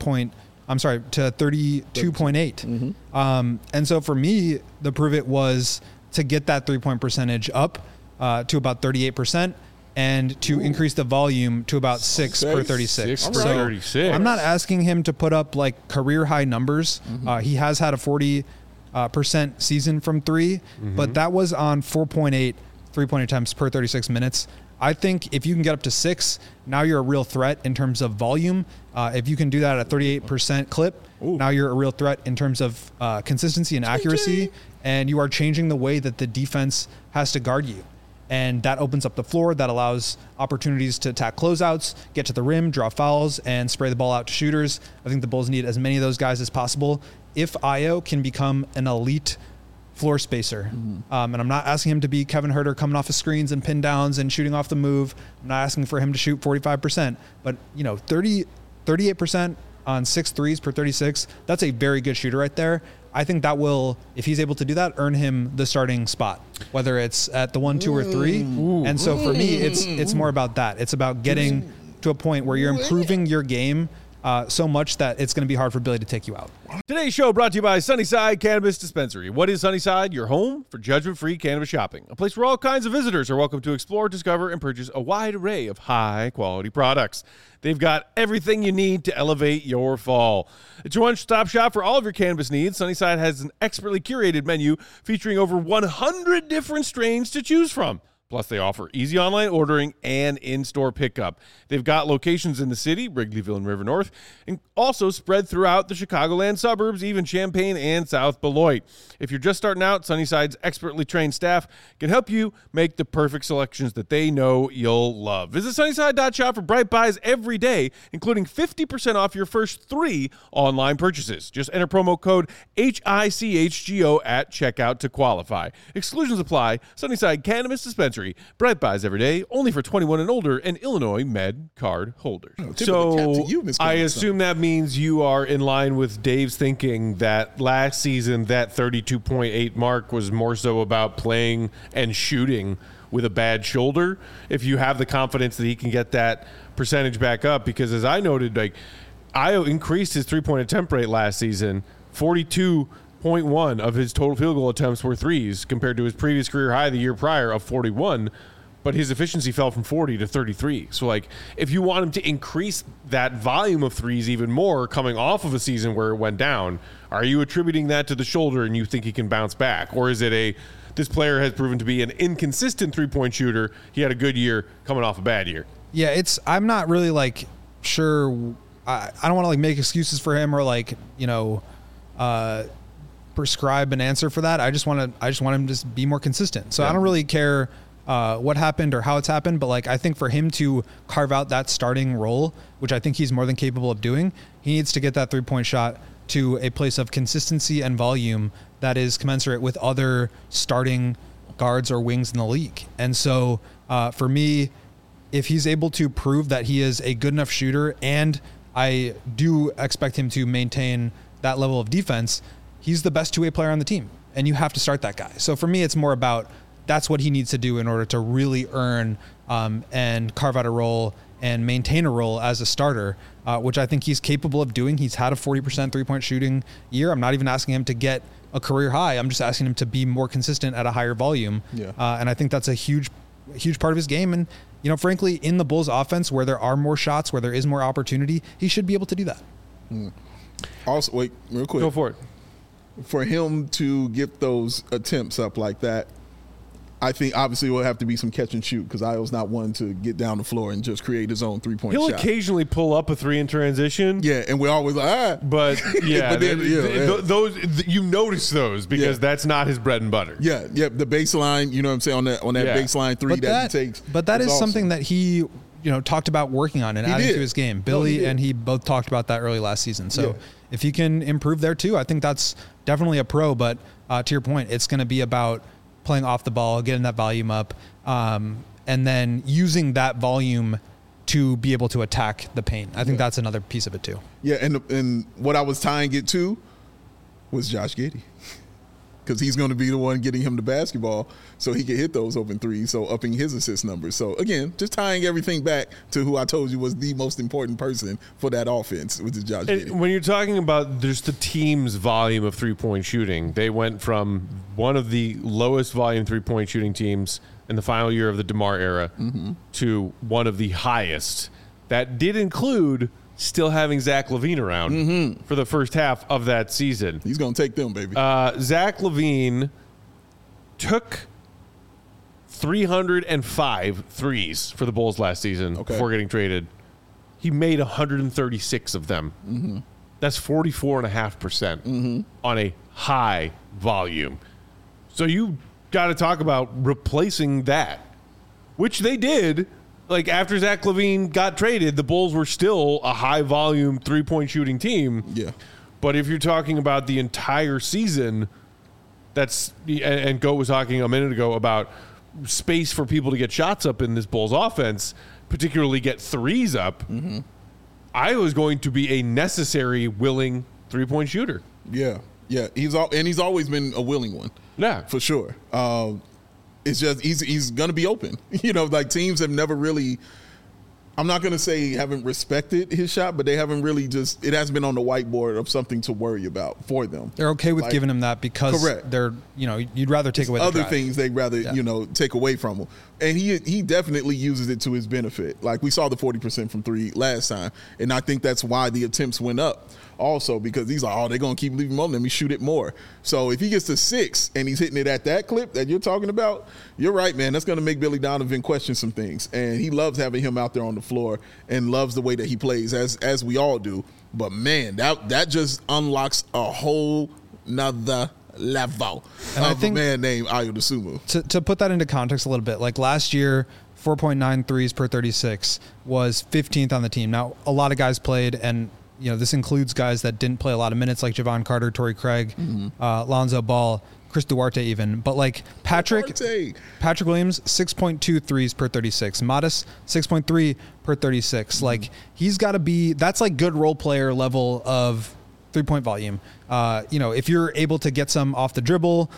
32.8. And so for me, the prove it was to get that 3-point percentage up to about 38%. And to increase the volume to about 6 per 36. 6 per 36. I'm not asking him to put up like career high numbers. He has had a 40% season from 3, but that was on 4.8 3-point attempts per 36 minutes. I think if you can get up to 6, now you're a real threat in terms of volume. If you can do that at a 38% clip, now you're a real threat in terms of consistency and accuracy, and you are changing the way that the defense has to guard you. And that opens up the floor. That allows opportunities to attack closeouts, get to the rim, draw fouls, and spray the ball out to shooters. I think the Bulls need as many of those guys as possible. If Ayo can become an elite floor spacer, and I'm not asking him to be Kevin Huerter coming off of screens and pin downs and shooting off the move. I'm not asking for him to shoot 45%, but 38% on 6 threes per 36, that's a very good shooter right there. I think that will, if he's able to do that, earn him the starting spot, whether it's at the 1, 2, or 3. And so for me, it's more about that. It's about getting to a point where you're improving your game so much that it's going to be hard for Billy to take you out. Today's show brought to you by Sunnyside Cannabis Dispensary. What is Sunnyside? Your home for judgment-free cannabis shopping. A place where all kinds of visitors are welcome to explore, discover, and purchase a wide array of high-quality products. They've got everything you need to elevate your fall. It's your one-stop shop for all of your cannabis needs. Sunnyside has an expertly curated menu featuring over 100 different strains to choose from. Plus, they offer easy online ordering and in-store pickup. They've got locations in the city, Wrigleyville and River North, and also spread throughout the Chicagoland suburbs, even Champaign and South Beloit. If you're just starting out, Sunnyside's expertly trained staff can help you make the perfect selections that they know you'll love. Visit Sunnyside.shop for bright buys every day, including 50% off your first 3 online purchases. Just enter promo code HICHGO at checkout to qualify. Exclusions apply. Sunnyside Cannabis Dispensary. Bright buys every day, only for 21 and older, and Illinois Med card holders. So I assume that means you are in line with Dave's thinking that last season that 32.8 mark was more so about playing and shooting with a bad shoulder. If you have the confidence that he can get that percentage back up, because as I noted, like Ayo increased his 3-point attempt rate last season, 42.1 of his total field goal attempts were threes compared to his previous career high the year prior of 41, but his efficiency fell from 40 to 33. So like if you want him to increase that volume of threes even more coming off of a season where it went down, are you attributing that to the shoulder and you think he can bounce back? Or is it this player has proven to be an inconsistent 3-point shooter. He had a good year coming off a bad year. Yeah, I'm not really like sure. I don't want to like make excuses for him or like, prescribe an answer for that. I just want him to be more consistent. So I don't really care what happened or how it's happened, but like I think for him to carve out that starting role, which I think he's more than capable of doing, he needs to get that 3-point shot to a place of consistency and volume that is commensurate with other starting guards or wings in the league. And so for me, if he's able to prove that he is a good enough shooter, and I do expect him to maintain that level of defense, he's the best 2-way player on the team, and you have to start that guy. So for me, it's more about that's what he needs to do in order to really earn and carve out a role and maintain a role as a starter, which I think he's capable of doing. He's had a 40% 3-point shooting year. I'm not even asking him to get a career high. I'm just asking him to be more consistent at a higher volume. Yeah. And I think that's a huge part of his game. And, frankly, in the Bulls offense where there are more shots, where there is more opportunity, he should be able to do that. Also, wait, real quick. Go for it. For him to get those attempts up like that, I think obviously it will have to be some catch and shoot because Ayo's not one to get down the floor and just create his own 3-point shot. He'll occasionally pull up a 3 in transition. Yeah, and we're always like, But yeah, those you notice those because that's not his bread and butter. Yeah, the baseline, you know what I'm saying, on that baseline 3 that he takes. But that is awesome. Something that he talked about working on and adding to his game. Billy and he both talked about that early last season. So if he can improve there too, I think that's definitely a pro. But to your point, it's going to be about playing off the ball, getting that volume up, and then using that volume to be able to attack the paint. I think that's another piece of it too. Yeah, and what I was tying it to, was Josh Giddey. Because he's going to be the one getting him the basketball so he can hit those open threes, so upping his assist numbers. So, again, just tying everything back to who I told you was the most important person for that offense, which is Josh Giddey. When you're talking about just the team's volume of three-point shooting, they went from one of the lowest volume three-point shooting teams in the final year of the DeMar era to one of the highest. That did include still having Zach LaVine around for the first half of that season. He's going to take them, baby. Zach LaVine took 305 threes for the Bulls last season before getting traded. He made 136 of them. That's 44.5% on a high volume. So you got to talk about replacing that, which they did. Like, after Zach LaVine got traded, the Bulls were still a high-volume three-point shooting team. Yeah. But if you're talking about the entire season, and Goat was talking a minute ago about space for people to get shots up in this Bulls offense, particularly get threes up, I was going to be a necessary, willing three-point shooter. Yeah. He's always been a willing one. Yeah. For sure. It's just he's going to be open. Like, teams have never really, I'm not going to say haven't respected his shot, but they haven't really it hasn't been on the whiteboard of something to worry about for them. They're okay with giving him that because they're, you'd rather take away the other drive. things they'd rather, take away from him. And he definitely uses it to his benefit. Like, we saw the 40% from three last time, and I think that's why the attempts went up. Also, because he's like, they're going to keep leaving him on. Let me shoot it more. So if he gets to 6 and he's hitting it at that clip that you're talking about, you're right, man. That's going to make Billy Donovan question some things. And he loves having him out there on the floor and loves the way that he plays, as we all do. But, man, that just unlocks a whole nother level and of I think a man named Ayo Dosunmu. To put that into context a little bit, like last year, 4.9 threes per 36 was 15th on the team. Now, a lot of guys played, and this includes guys that didn't play a lot of minutes, like Javon Carter, Torrey Craig, Lonzo Ball, Chris Duarte even. But like Patrick Williams, 6.2 threes per 36. Modest, 6.3 per 36. Like, he's got to be, that's like good role player level of three-point volume. If you're able to get some off the dribble,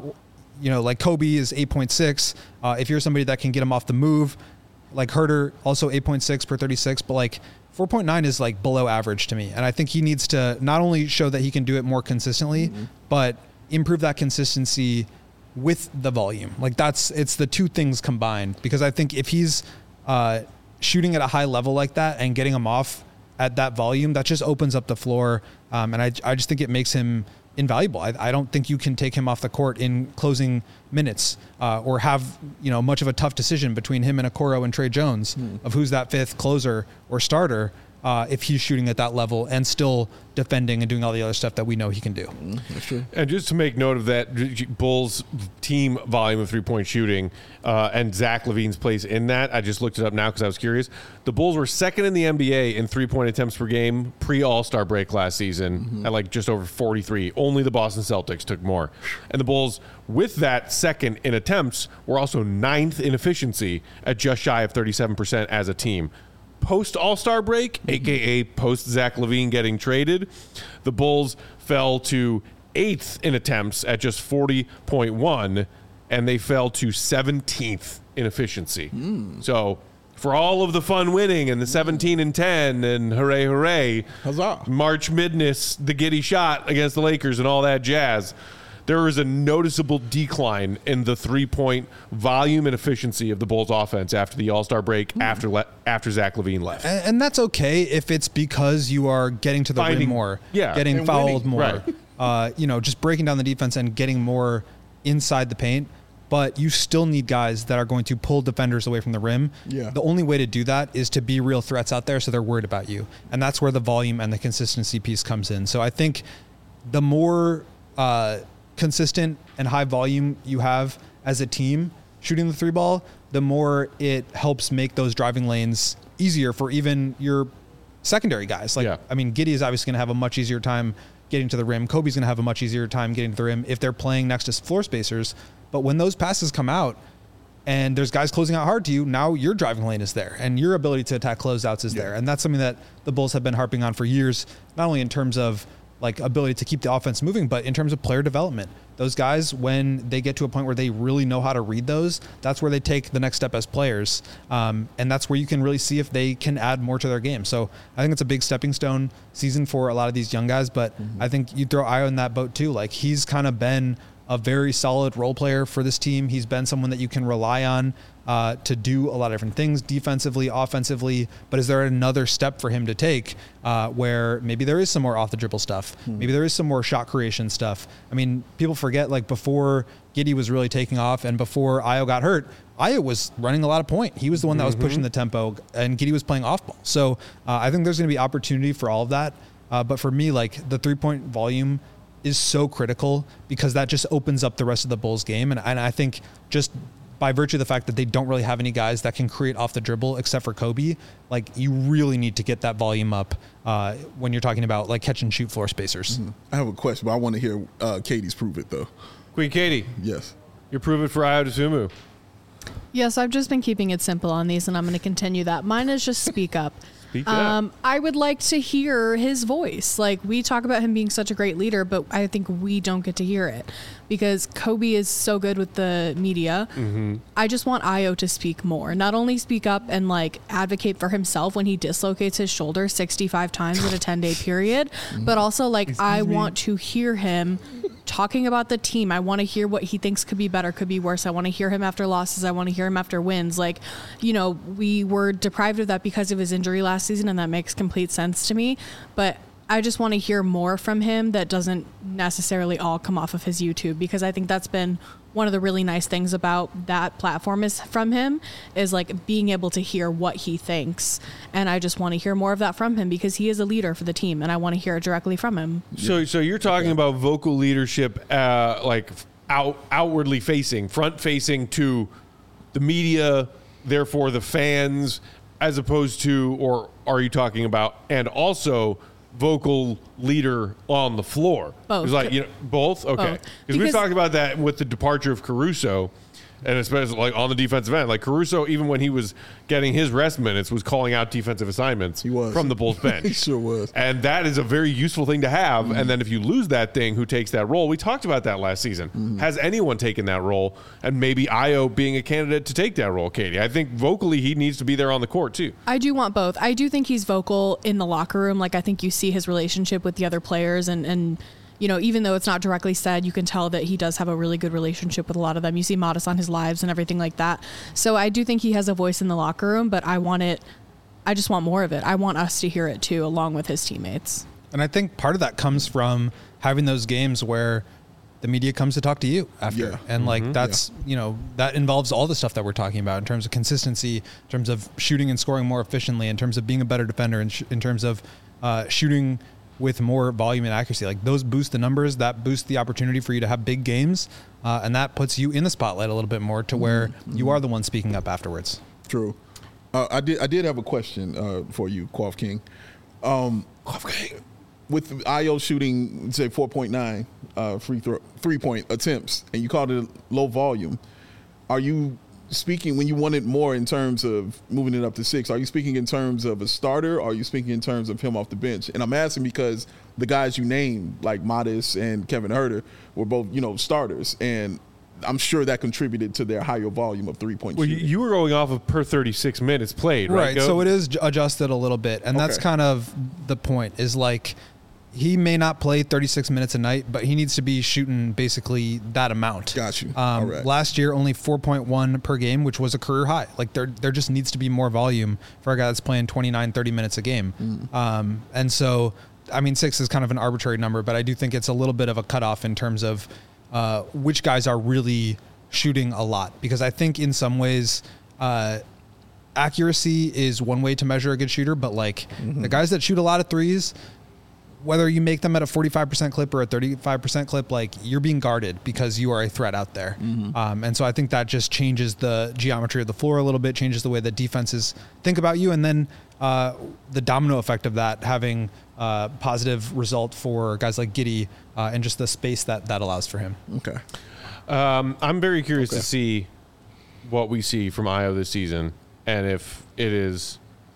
like Kobe is 8.6. If you're somebody that can get him off the move, like Herter, also 8.6 per 36, but like 4.9 is like below average to me. And I think he needs to not only show that he can do it more consistently, but improve that consistency with the volume. Like, it's the two things combined, because I think if he's shooting at a high level like that and getting him off at that volume, that just opens up the floor. And I just think it makes him invaluable. I don't think you can take him off the court in closing minutes or have much of a tough decision between him and Okoro and Trey Jones of who's that fifth closer or starter if he's shooting at that level and still defending and doing all the other stuff that we know he can do. That's true. And just to make note of that, Bulls team volume of three-point shooting and Zach LaVine's place in that, I just looked it up now because I was curious. The Bulls were second in the NBA in three-point attempts per game pre-All-Star break last season at like just over 43. Only the Boston Celtics took more. And the Bulls, with that second in attempts, were also 9th in efficiency at just shy of 37% as a team. Post All-Star break, a.k.a. post Zach LaVine getting traded, the Bulls fell to 8th in attempts at just 40.1, and they fell to 17th in efficiency. So for all of the fun winning and the 17-10 and hooray, hooray, huzzah, March Madness, the Giddey shot against the Lakers and all that jazz, there is a noticeable decline in the three-point volume and efficiency of the Bulls offense after the All-Star break, after Zach LaVine left. And that's okay if it's because you are getting to the rim more, getting and fouled winning. more, just breaking down the defense and getting more inside the paint. But you still need guys that are going to pull defenders away from the rim. Yeah. The only way to do that is to be real threats out there so they're worried about you. And that's where the volume and the consistency piece comes in. So I think the more consistent and high volume you have as a team shooting the three ball, the more it helps make those driving lanes easier for even your secondary guys. Giddey is obviously going to have a much easier time getting to the rim. Kobe's going to have a much easier time getting to the rim if they're playing next to floor spacers. But when those passes come out and there's guys closing out hard to you, now your driving lane is there and your ability to attack closeouts is there. And that's something that the Bulls have been harping on for years, not only in terms of like ability to keep the offense moving, but in terms of player development, those guys, when they get to a point where they really know how to read those, that's where they take the next step as players. And that's where you can really see if they can add more to their game. So I think it's a big stepping stone season for a lot of these young guys, but I think you throw Ayo in that boat too. Like, he's kind of been a very solid role player for this team. He's been someone that you can rely on to do a lot of different things defensively, offensively. But is there another step for him to take where maybe there is some more off the dribble stuff? Maybe there is some more shot creation stuff. I mean, people forget, like, before Giddey was really taking off and before Ayo got hurt, Ayo was running a lot of point. He was the one that was pushing the tempo, and Giddey was playing off ball. So I think there's going to be opportunity for all of that. But for me, like, the 3-point volume is so critical because that just opens up the rest of the Bulls game. And I think just by virtue of the fact that they don't really have any guys that can create off the dribble except for Kobe, like, you really need to get that volume up when you're talking about, like, catch and shoot floor spacers. I have a question, but I want to hear Katie's prove it, though. Queen Katie, Yes. you're proving for Ayo Dosunmu. Yes, I've just been keeping it simple on these, and I'm going to continue that. Mine is just speak up. Speak up. I would like to hear his voice. Like, we talk about him being such a great leader, but I think we don't get to hear it because Kobe is so good with the media. I just want Ayo to speak more, not only speak up and, like, advocate for himself when he dislocates his shoulder 65 times in a 10-day period, but also, like, I want to hear him talking about the team. I want to hear what he thinks could be better, could be worse. I want to hear him after losses. I want to hear him after wins. Like, you know, we were deprived of that because of his injury last season, and that makes complete sense to me. But I just want to hear more from him that doesn't necessarily all come off of his YouTube, because I think that's been one of the really nice things about that platform is from him is, like, being able to hear what he thinks. And I just want to hear more of that from him because he is a leader for the team, and I want to hear it directly from him. So you're talking about vocal leadership, like outwardly facing, front facing to the media, therefore the fans, as opposed to, or are you talking about, and also vocal leader on the floor? Both. It's like, you know, both? Okay. Both. Because we've Because- talked about that with the departure of Caruso, and especially, like, on the defensive end. Like, Caruso, even when he was getting his rest minutes, was calling out defensive assignments He was. from the Bulls bench. He sure was. And that is a very useful thing to have. And then if you lose that thing, who takes that role? We talked about that last season. Has anyone taken that role? And maybe Ayo being a candidate to take that role, Katie. I think vocally he needs to be there on the court too. I do want both. I do think he's vocal in the locker room. Like, I think you see his relationship with the other players and you know, even though it's not directly said, you can tell that he does have a really good relationship with a lot of them. You see Modest on his lives and everything like that. So I do think he has a voice in the locker room, but I just want more of it. I want us to hear it too, along with his teammates. And I think part of that comes from having those games where the media comes to talk to you after. Yeah. And like, that's, you know, that involves all the stuff that we're talking about in terms of consistency, in terms of shooting and scoring more efficiently, in terms of being a better defender, in terms of shooting with more volume and accuracy. Like, those boost the numbers, that boosts the opportunity for you to have big games. And that puts you in the spotlight a little bit more to where you are the one speaking up afterwards. True. I did have a question for you, Quaff King. With Ayo shooting, say, 4.9 3-point attempts, and you called it low volume, are you speaking, when you wanted more in terms of moving it up to 6, are you speaking in terms of a starter, or are you speaking in terms of him off the bench? And I'm asking because the guys you named, like Modest and Kevin Huerter, were both, you know, starters, and I'm sure that contributed to their higher volume of 3-point Well, shooting. you were going off of per 36 minutes played, right? Right. So it is adjusted a little bit. And that's Okay. kind of the point, is like, he may not play 36 minutes a night, but he needs to be shooting basically that amount. Got you. All right. Last year, only 4.1 per game, which was a career high. Like, there just needs to be more volume for a guy that's playing 29, 30 minutes a game. And so, I mean, 6 is kind of an arbitrary number, but I do think it's a little bit of a cutoff in terms of which guys are really shooting a lot. Because I think in some ways, accuracy is one way to measure a good shooter, but like the guys that shoot a lot of threes, whether you make them at a 45% clip or a 35% clip, like, you're being guarded because you are a threat out there. And so I think that just changes the geometry of the floor a little bit, changes the way that defenses think about you. And then the domino effect of that having a positive result for guys like Giddey and just the space that allows for him. Okay. I'm very curious to see what we see from Ayo this season, and if it is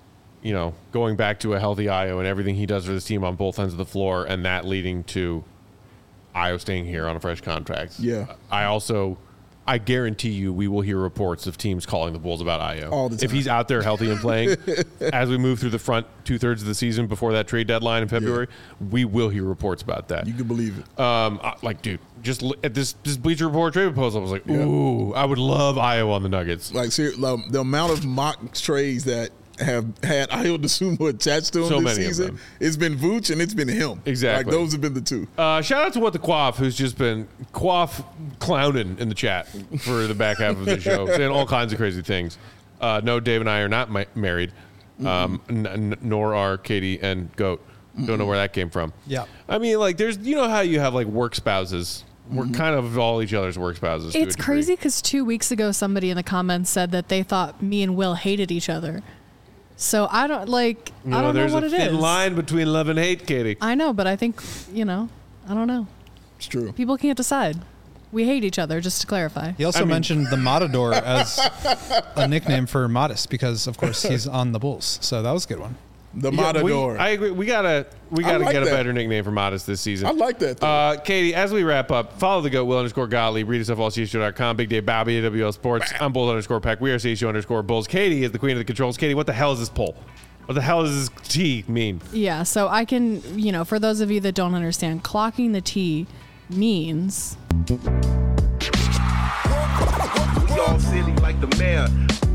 going back to a healthy Io and everything he does for this team on both ends of the floor, and that leading to Io staying here on a fresh contract. Yeah. I guarantee you we will hear reports of teams calling the Bulls about Io. All the time. If he's out there healthy and playing, as we move through the front 2/3 of the season before that trade deadline in February, we will hear reports about that. You can believe it. Dude, just look at this Bleacher Report trade proposal. I was like, ooh, I would love Io on the Nuggets. Like, the amount of mock trades that have had Io DeSumo attached to him this season, it's been Vooch and it's been him. Exactly. Like, those have been the two. Shout out to What the Quaff, who's just been clowning in the chat for the back half of the show, saying all kinds of crazy things. No, Dave and I are not married, nor are Katie and Goat. Don't know where that came from. Yeah. I mean, like, there's, how you have, like, work spouses. We're kind of all each other's work spouses. It's crazy because 2 weeks ago, somebody in the comments said that they thought me and Will hated each other. So I don't I don't know what it is. There's a thin line between love and hate, Katie. I know, but I think, I don't know. It's true. People can't decide. We hate each other, just to clarify. He also mentioned the Matador as a nickname for Modest because, of course, he's on the Bulls. So that was a good one. The Matador. I agree. We gotta like get a that. better nickname for Modest this season. I like that, though. Katie, as we wrap up, follow the GOAT, Will_Gottlieb. Read us off allcshow.com. Big Dave Bobby, AWL Sports. I'm Bulls_Peck. We are CSU_Bulls. Katie is the queen of the controls. Katie, what the hell is this poll? What the hell does this T mean? Yeah, so I can, for those of you that don't understand, clocking the T means... We all silly like the mayor.